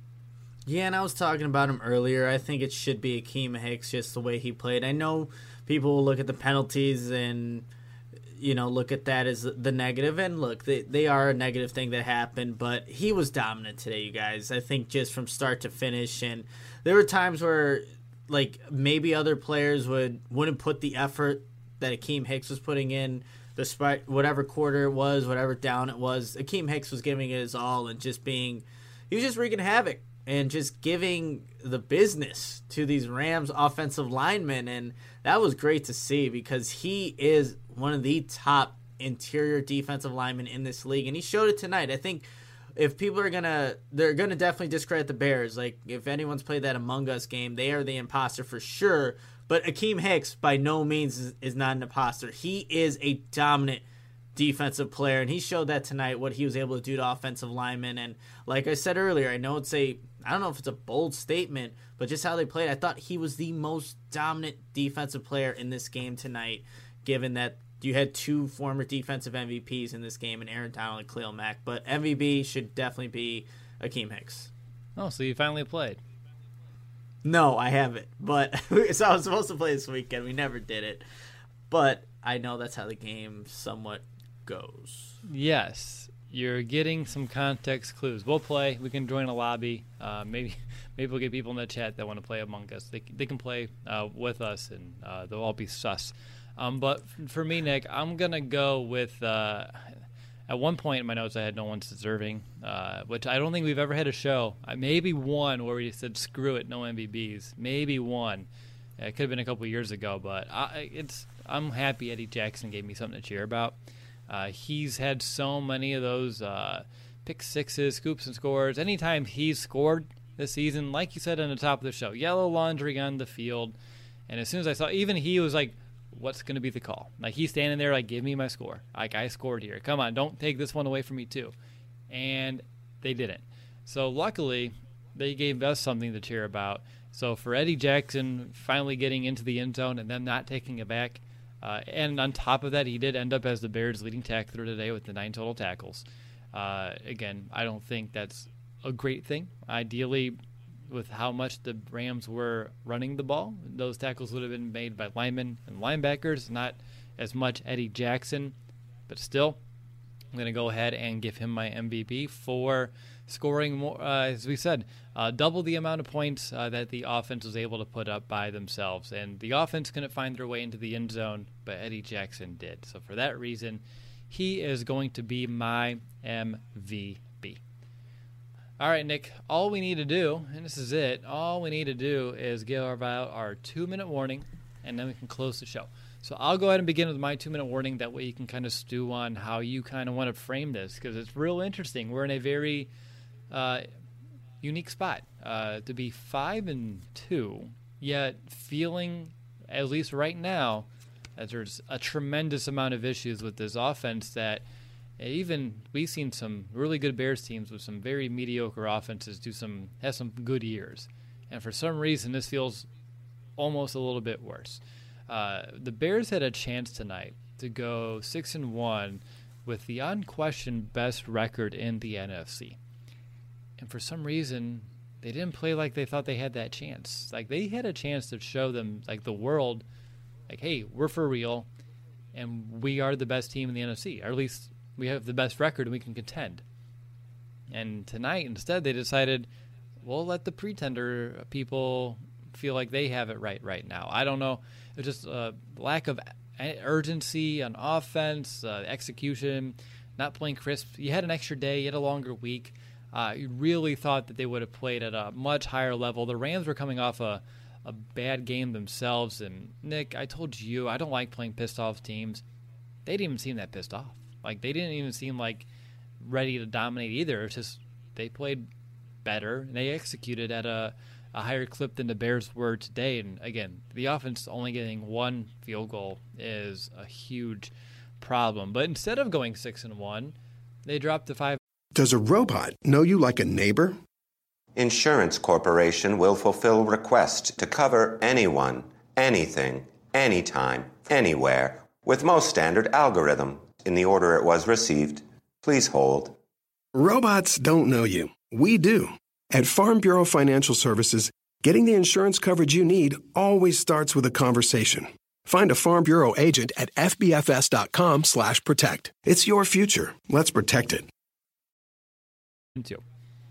Yeah, and I was talking about him earlier. I think it should be Akeem Hicks, just the way he played. I know people will look at the penalties and, you know, look at that as the negative. And look, they, they are a negative thing that happened, but he was dominant today, you guys. I think just from start to finish. And there were times where, like, maybe other players would, wouldn't put the effort that Akeem Hicks was putting in, despite whatever quarter it was, whatever down it was. Akeem Hicks was giving it his all and just being, he was just wreaking havoc and just giving the business to these Rams offensive linemen. And that was great to see because he is one of the top interior defensive linemen in this league. And he showed it tonight. I think if people are going to, they're going to definitely discredit the Bears. Like, if anyone's played that Among Us game, they are the imposter for sure. But Akeem Hicks, by no means, is, is not an imposter. He is a dominant defensive player, and he showed that tonight, what he was able to do to offensive linemen. And like I said earlier, I know it's a, I don't know if it's a bold statement, but just how they played, I thought he was the most dominant defensive player in this game tonight, given that you had two former defensive M V Ps in this game, in Aaron Donald and Khalil Mack. But M V P should definitely be Akeem Hicks. Oh, so you finally played. No, I haven't. But so I was supposed to play this weekend. We never did it. But I know that's how the game somewhat goes. Yes, you're getting some context clues. We'll play. We can join a lobby. Uh, maybe maybe we'll get people in the chat that want to play Among Us. They they can play uh, with us, and uh, they'll all be sus. Um, but for me, Nick, I'm going to go with uh, – at one point in my notes I had no one's deserving, uh, which I don't think we've ever had a show. Uh, maybe one where we said, screw it, no M V Bs. Maybe one. Uh, it could have been a couple years ago, but I, it's I'm happy Eddie Jackson gave me something to cheer about. Uh, he's had so many of those uh, pick sixes, scoops, and scores. Anytime he's scored this season, like you said on the top of the show, yellow laundry on the field. And as soon as I saw, even he was like, what's going to be the call? Like, he's standing there like, give me my score. Like, I scored here. Come on, don't take this one away from me too. and they didn't. So luckily, they gave us something to cheer about. So for Eddie Jackson finally getting into the end zone and them not taking it back, uh, and on top of that, he did end up as the Bears' leading tackler today with the nine total tackles. Uh, again, I don't think that's a great thing. Ideally, with how much the Rams were running the ball, those tackles would have been made by linemen and linebackers, not as much Eddie Jackson. But still, I'm going to go ahead and give him my M V P for scoring more, uh, as we said, uh, double the amount of points uh, that the offense was able to put up by themselves. And the offense couldn't find their way into the end zone, but Eddie Jackson did. So for that reason, he is going to be my M V P. All right, Nick, all we need to do, and this is it, all we need to do is give out our two-minute warning, and then we can close the show. So I'll go ahead and begin with my two-minute warning. That way you can kind of stew on how you kind of want to frame this, because it's real interesting. We're in a very uh, unique spot uh, to be five and two, yet feeling, at least right now, that there's a tremendous amount of issues with this offense that even we've seen some really good Bears teams with some very mediocre offenses do some have some good years, and for some reason this feels almost a little bit worse. Uh, the Bears had a chance tonight to go six and one with the unquestioned best record in the N F C, and for some reason they didn't play like they thought they had that chance. Like they had a chance to show them, like the world, like, hey, we're for real, and we are the best team in the N F C, or at least we have the best record and we can contend. And tonight, instead, they decided, we'll let the pretender people feel like they have it right right now. I don't know. It's just a lack of urgency on offense, uh, execution, not playing crisp. You had an extra day. You had a longer week. Uh, you really thought that they would have played at a much higher level. The Rams were coming off a, a bad game themselves. And, Nick, I told you, I don't like playing pissed-off teams. They didn't even seem that pissed off. Like, they didn't even seem like ready to dominate either. It's just they played better, and they executed at a, a higher clip than the Bears were today. And, again, the offense only getting one field goal is a huge problem. But instead of going six and one, they dropped to five. Does a robot know you like a neighbor? Insurance Corporation will fulfill requests to cover anyone, anything, anytime, anywhere, with most standard algorithm. In the order it was received, please hold. Robots don't know you. We do. At Farm Bureau Financial Services, getting the insurance coverage you need always starts with a conversation. Find a Farm Bureau agent at fbfs.com slash protect. It's your future. Let's protect it. Two.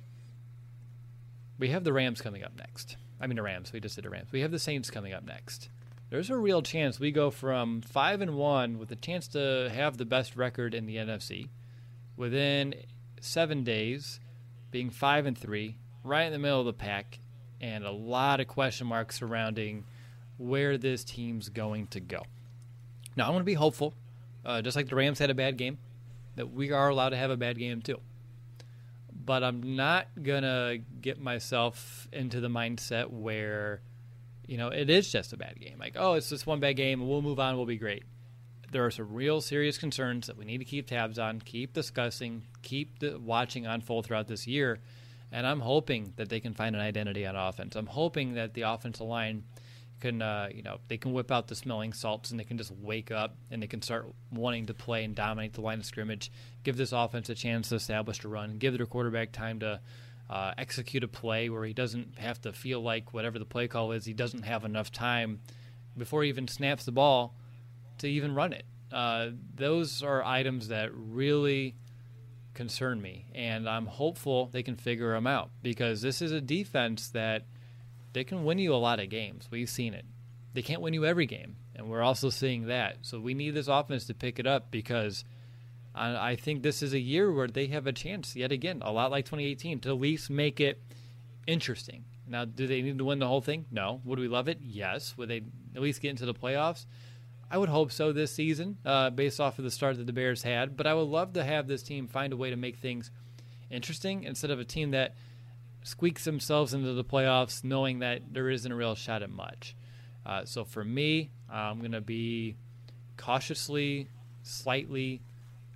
We have the Rams coming up next. I mean the Rams. We just did the Rams. We have the Saints coming up next. There's a real chance we go from five and one with a chance to have the best record in the N F C within seven days, being five and three, right in the middle of the pack, and a lot of question marks surrounding where this team's going to go. Now, I want to be hopeful, uh, just like the Rams had a bad game, that we are allowed to have a bad game too. But I'm not going to get myself into the mindset where, you know, it is just a bad game. Like, oh, it's just one bad game, and we'll move on, we'll be great. There are some real serious concerns that we need to keep tabs on, keep discussing, keep the, watching unfold throughout this year. And I'm hoping that they can find an identity on offense. I'm hoping that the offensive line can, uh, you know, they can whip out the smelling salts and they can just wake up and they can start wanting to play and dominate the line of scrimmage, give this offense a chance to establish a run, give their quarterback time to uh, execute a play where he doesn't have to feel like whatever the play call is, he doesn't have enough time before he even snaps the ball to even run it. Uh, those are items that really concern me, and I'm hopeful they can figure them out because this is a defense that they can win you a lot of games. We've seen it. They can't win you every game, and we're also seeing that. So we need this offense to pick it up because I, I think this is a year where they have a chance, yet again, a lot like twenty eighteen, to at least make it interesting. Now, do they need to win the whole thing? No. Would we love it? Yes. Would they at least get into the playoffs? I would hope so this season, uh, based off of the start that the Bears had. But I would love to have this team find a way to make things interesting instead of a team that squeaks themselves into the playoffs knowing that there isn't a real shot at much. Uh, so for me, I'm going to be cautiously, slightly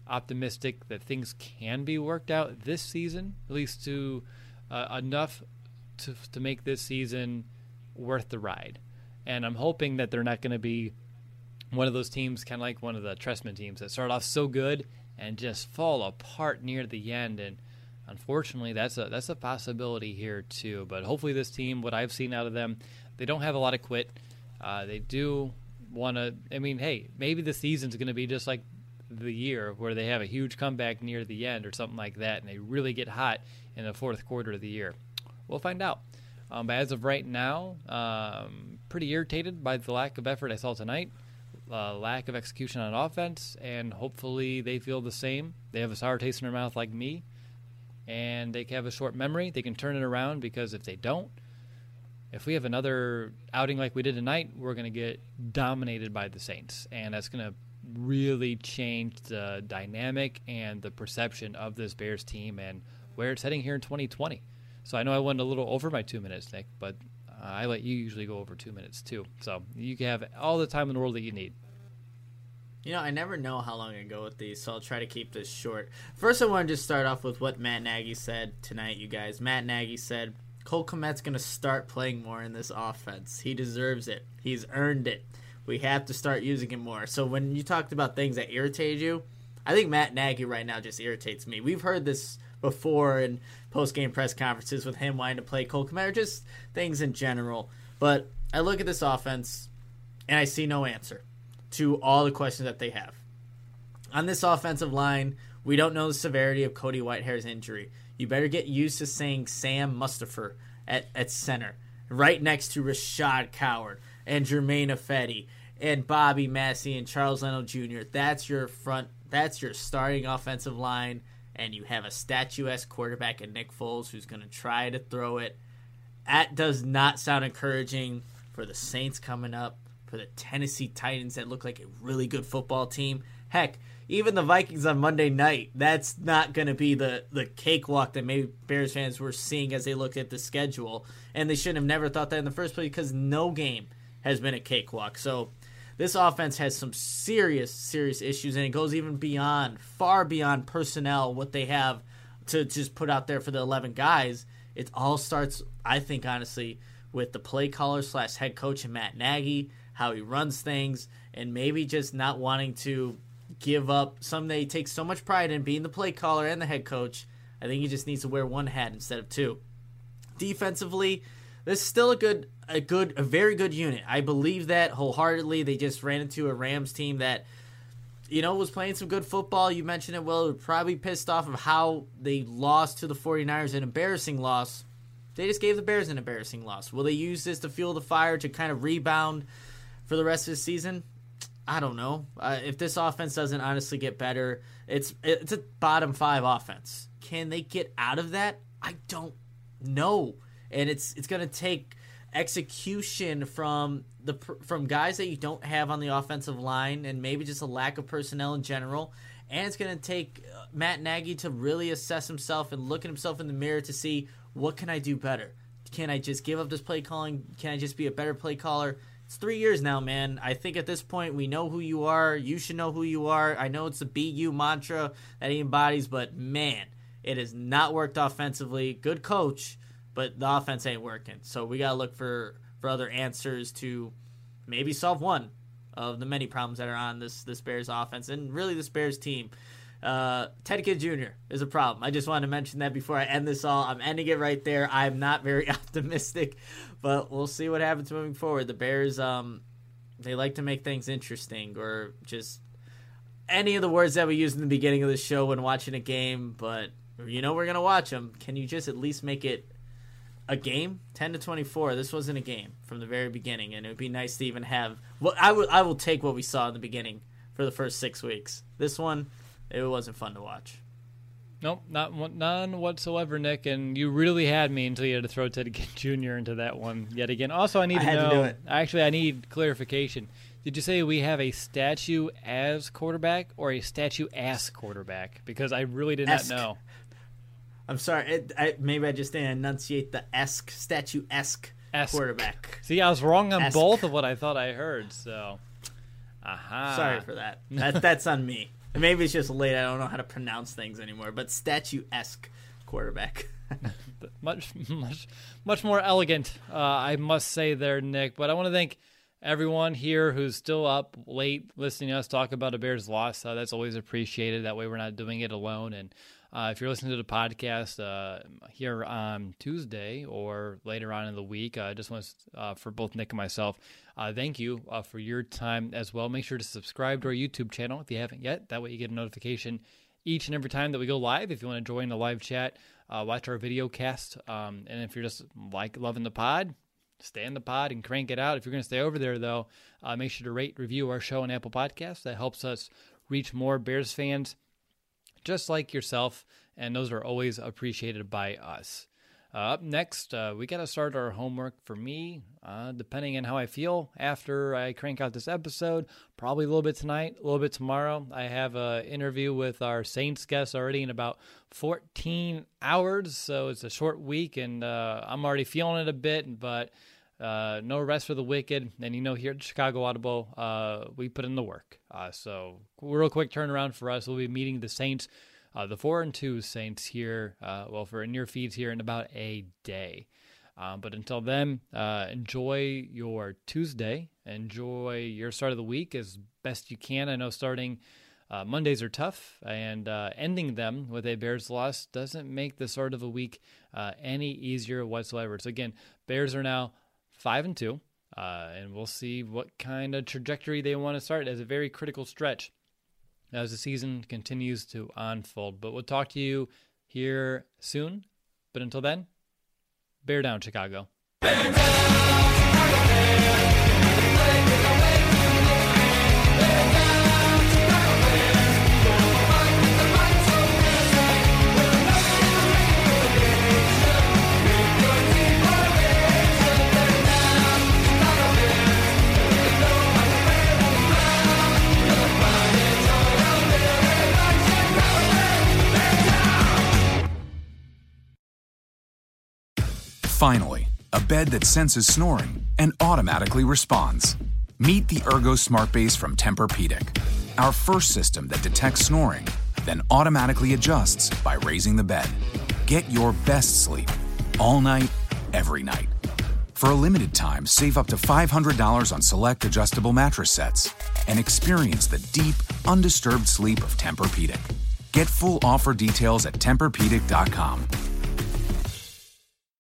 optimistic that things can be worked out this season, at least to uh, enough to to make this season worth the ride. And I'm hoping that they're not going to be one of those teams, kind of like one of the Trestman teams, that start off so good and just fall apart near the end. And unfortunately, that's a that's a possibility here too. But hopefully this team, what I've seen out of them, they don't have a lot of quit. Uh, they do want to, I mean, hey, maybe the season's going to be just like the year where they have a huge comeback near the end or something like that, and they really get hot in the fourth quarter of the year. We'll find out. Um, but as of right now, um, pretty irritated by the lack of effort I saw tonight, uh, lack of execution on offense, and hopefully they feel the same. They have a sour taste in their mouth like me, and they have a short memory. They can turn it around, because if they don't, if we have another outing like we did tonight, we're going to get dominated by the Saints, and that's going to really change the dynamic and the perception of this Bears team and where it's heading here in twenty twenty. So I know I went a little over my two minutes, Nick, but uh, I let you usually go over two minutes too. So you can have all the time in the world that you need. You know, I never know how long I go with these, so I'll try to keep this short. First, I want to just start off with what Matt Nagy said tonight, you guys. Matt Nagy said, Cole Kmet's going to start playing more in this offense. He deserves it. He's earned it. We have to start using him more. So when you talked about things that irritated you, I think Matt Nagy right now just irritates me. We've heard this before in post-game press conferences with him wanting to play Cole Kmet, or just things in general. But I look at this offense, and I see no answer to all the questions that they have. On this offensive line, we don't know the severity of Cody Whitehair's injury. You better get used to saying Sam Mustipher at, at center, right next to Rashad Coward and Jermaine Ifedi and Bobby Massey and Charles Leno Junior That's your front. That's your starting offensive line, and you have a statuesque quarterback in Nick Foles who's going to try to throw it. That does not sound encouraging for the Saints coming up, for the Tennessee Titans that look like a really good football team. Heck, even the Vikings on Monday night, that's not going to be the, the cakewalk that maybe Bears fans were seeing as they looked at the schedule. And they should have never thought that in the first place, because no game has been a cakewalk. So this offense has some serious, serious issues, and it goes even beyond, far beyond personnel, what they have to just put out there for the eleven guys. It all starts, I think, honestly, with the play caller slash head coach and Matt Nagy, how he runs things, and maybe just not wanting to give up something that he takes so much pride in, being the play caller and the head coach. I think he just needs to wear one hat instead of two. Defensively, this is still a good, a good, a very good unit. I believe that wholeheartedly. They just ran into a Rams team that, you know, was playing some good football. You mentioned it, Will. Probably pissed off of how they lost to the 49ers, an embarrassing loss. They just gave the Bears an embarrassing loss. Will they use this to fuel the fire to kind of rebound for the rest of the season? I don't know. Uh, if this offense doesn't honestly get better, it's it's a bottom five offense. Can they get out of that? I don't know. And it's it's going to take execution from the from guys that you don't have on the offensive line, and maybe just a lack of personnel in general. And it's going to take Matt Nagy to really assess himself and look at himself in the mirror to see, what can I do better? Can I just give up this play calling? Can I just be a better play caller? It's three years now, man. I think at this point we know who you are. You should know who you are. I know it's the B U mantra that he embodies, but man, it has not worked offensively. Good coach, but the offense ain't working. So we got to look for, for other answers to maybe solve one of the many problems that are on this, this Bears offense and really this Bears team. Uh, Ted Ginn Junior is a problem. I just wanted to mention that before I end this all. I'm ending it right there. I'm not very optimistic, but we'll see what happens moving forward. The Bears, um, they like to make things interesting, or just any of the words that we used in the beginning of the show when watching a game, but you know we're going to watch them. Can you just at least make it a game? ten to twenty-four. This wasn't a game from the very beginning, and it would be nice to even have well, I will I will take what we saw in the beginning for the first six weeks. This one, it wasn't fun to watch. Nope, not one- none whatsoever, Nick. And you really had me until you had to throw Ted Ginn Junior into that one yet again. Also, I need I to had know. to do it. Actually, I need clarification. Did you say we have a statue as quarterback or a statue ass quarterback? Because I really did Esque. not know. I'm sorry. It, I, maybe I just didn't enunciate the esque, statue-esque Esque. quarterback. See, I was wrong on Esque. both of what I thought I heard. So, aha. Sorry for that. that. That's on me. And maybe it's just late. I don't know how to pronounce things anymore. But statue-esque quarterback. much, much, much more elegant, uh, I must say there, Nick. But I want to thank everyone here who's still up late listening to us talk about a Bears loss. Uh, that's always appreciated. That way we're not doing it alone. And uh, if you're listening to the podcast uh, here on Tuesday or later on in the week, I uh, just want to, uh, for both Nick and myself, uh, thank you uh, for your time as well. Make sure to subscribe to our YouTube channel if you haven't yet. That way you get a notification each and every time that we go live. If you want to join the live chat, uh, watch our video cast. Um, and if you're just like loving the pod, stay in the pod and crank it out. If you're going to stay over there, though, uh, make sure to rate, review our show on Apple Podcasts. That helps us reach more Bears fans just like yourself, and those are always appreciated by us. Uh, up next, uh, we got to start our homework for me, uh, depending on how I feel after I crank out this episode. Probably a little bit tonight, a little bit tomorrow. I have an interview with our Saints guest already in about fourteen hours, so it's a short week, and uh, I'm already feeling it a bit, but uh, no rest for the wicked. And, you know, here at Chicago Audible, uh, we put in the work. Uh, so real quick turnaround for us. We'll be meeting the Saints, uh, the four and two Saints here, uh, well, for in your feeds here in about a day. Um, but until then, uh, enjoy your Tuesday. Enjoy your start of the week as best you can. I know starting uh, Mondays are tough, and uh, ending them with a Bears loss doesn't make the start of a week uh, any easier whatsoever. So again, Bears are now five and two, uh, and we'll see what kind of trajectory they want to start as a very critical stretch as the season continues to unfold. But we'll talk to you here soon. But until then, bear down, Chicago. Bear down, Chicago Bears. Play with the way to bear down, Chicago Bears. We'll fight with the might so fierce. We'll never relegation. With your team formation. Bear down, Chicago Bears. There is no other way around. Your pride and joy out there. Everybody Chicago Bears. Bear down. Finally, a bed that senses snoring and automatically responds. Meet the Ergo Smart Base from Tempur-Pedic, our first system that detects snoring, then automatically adjusts by raising the bed. Get your best sleep all night, every night. For a limited time, save up to five hundred dollars on select adjustable mattress sets and experience the deep, undisturbed sleep of Tempur-Pedic. Get full offer details at Tempur Pedic dot com.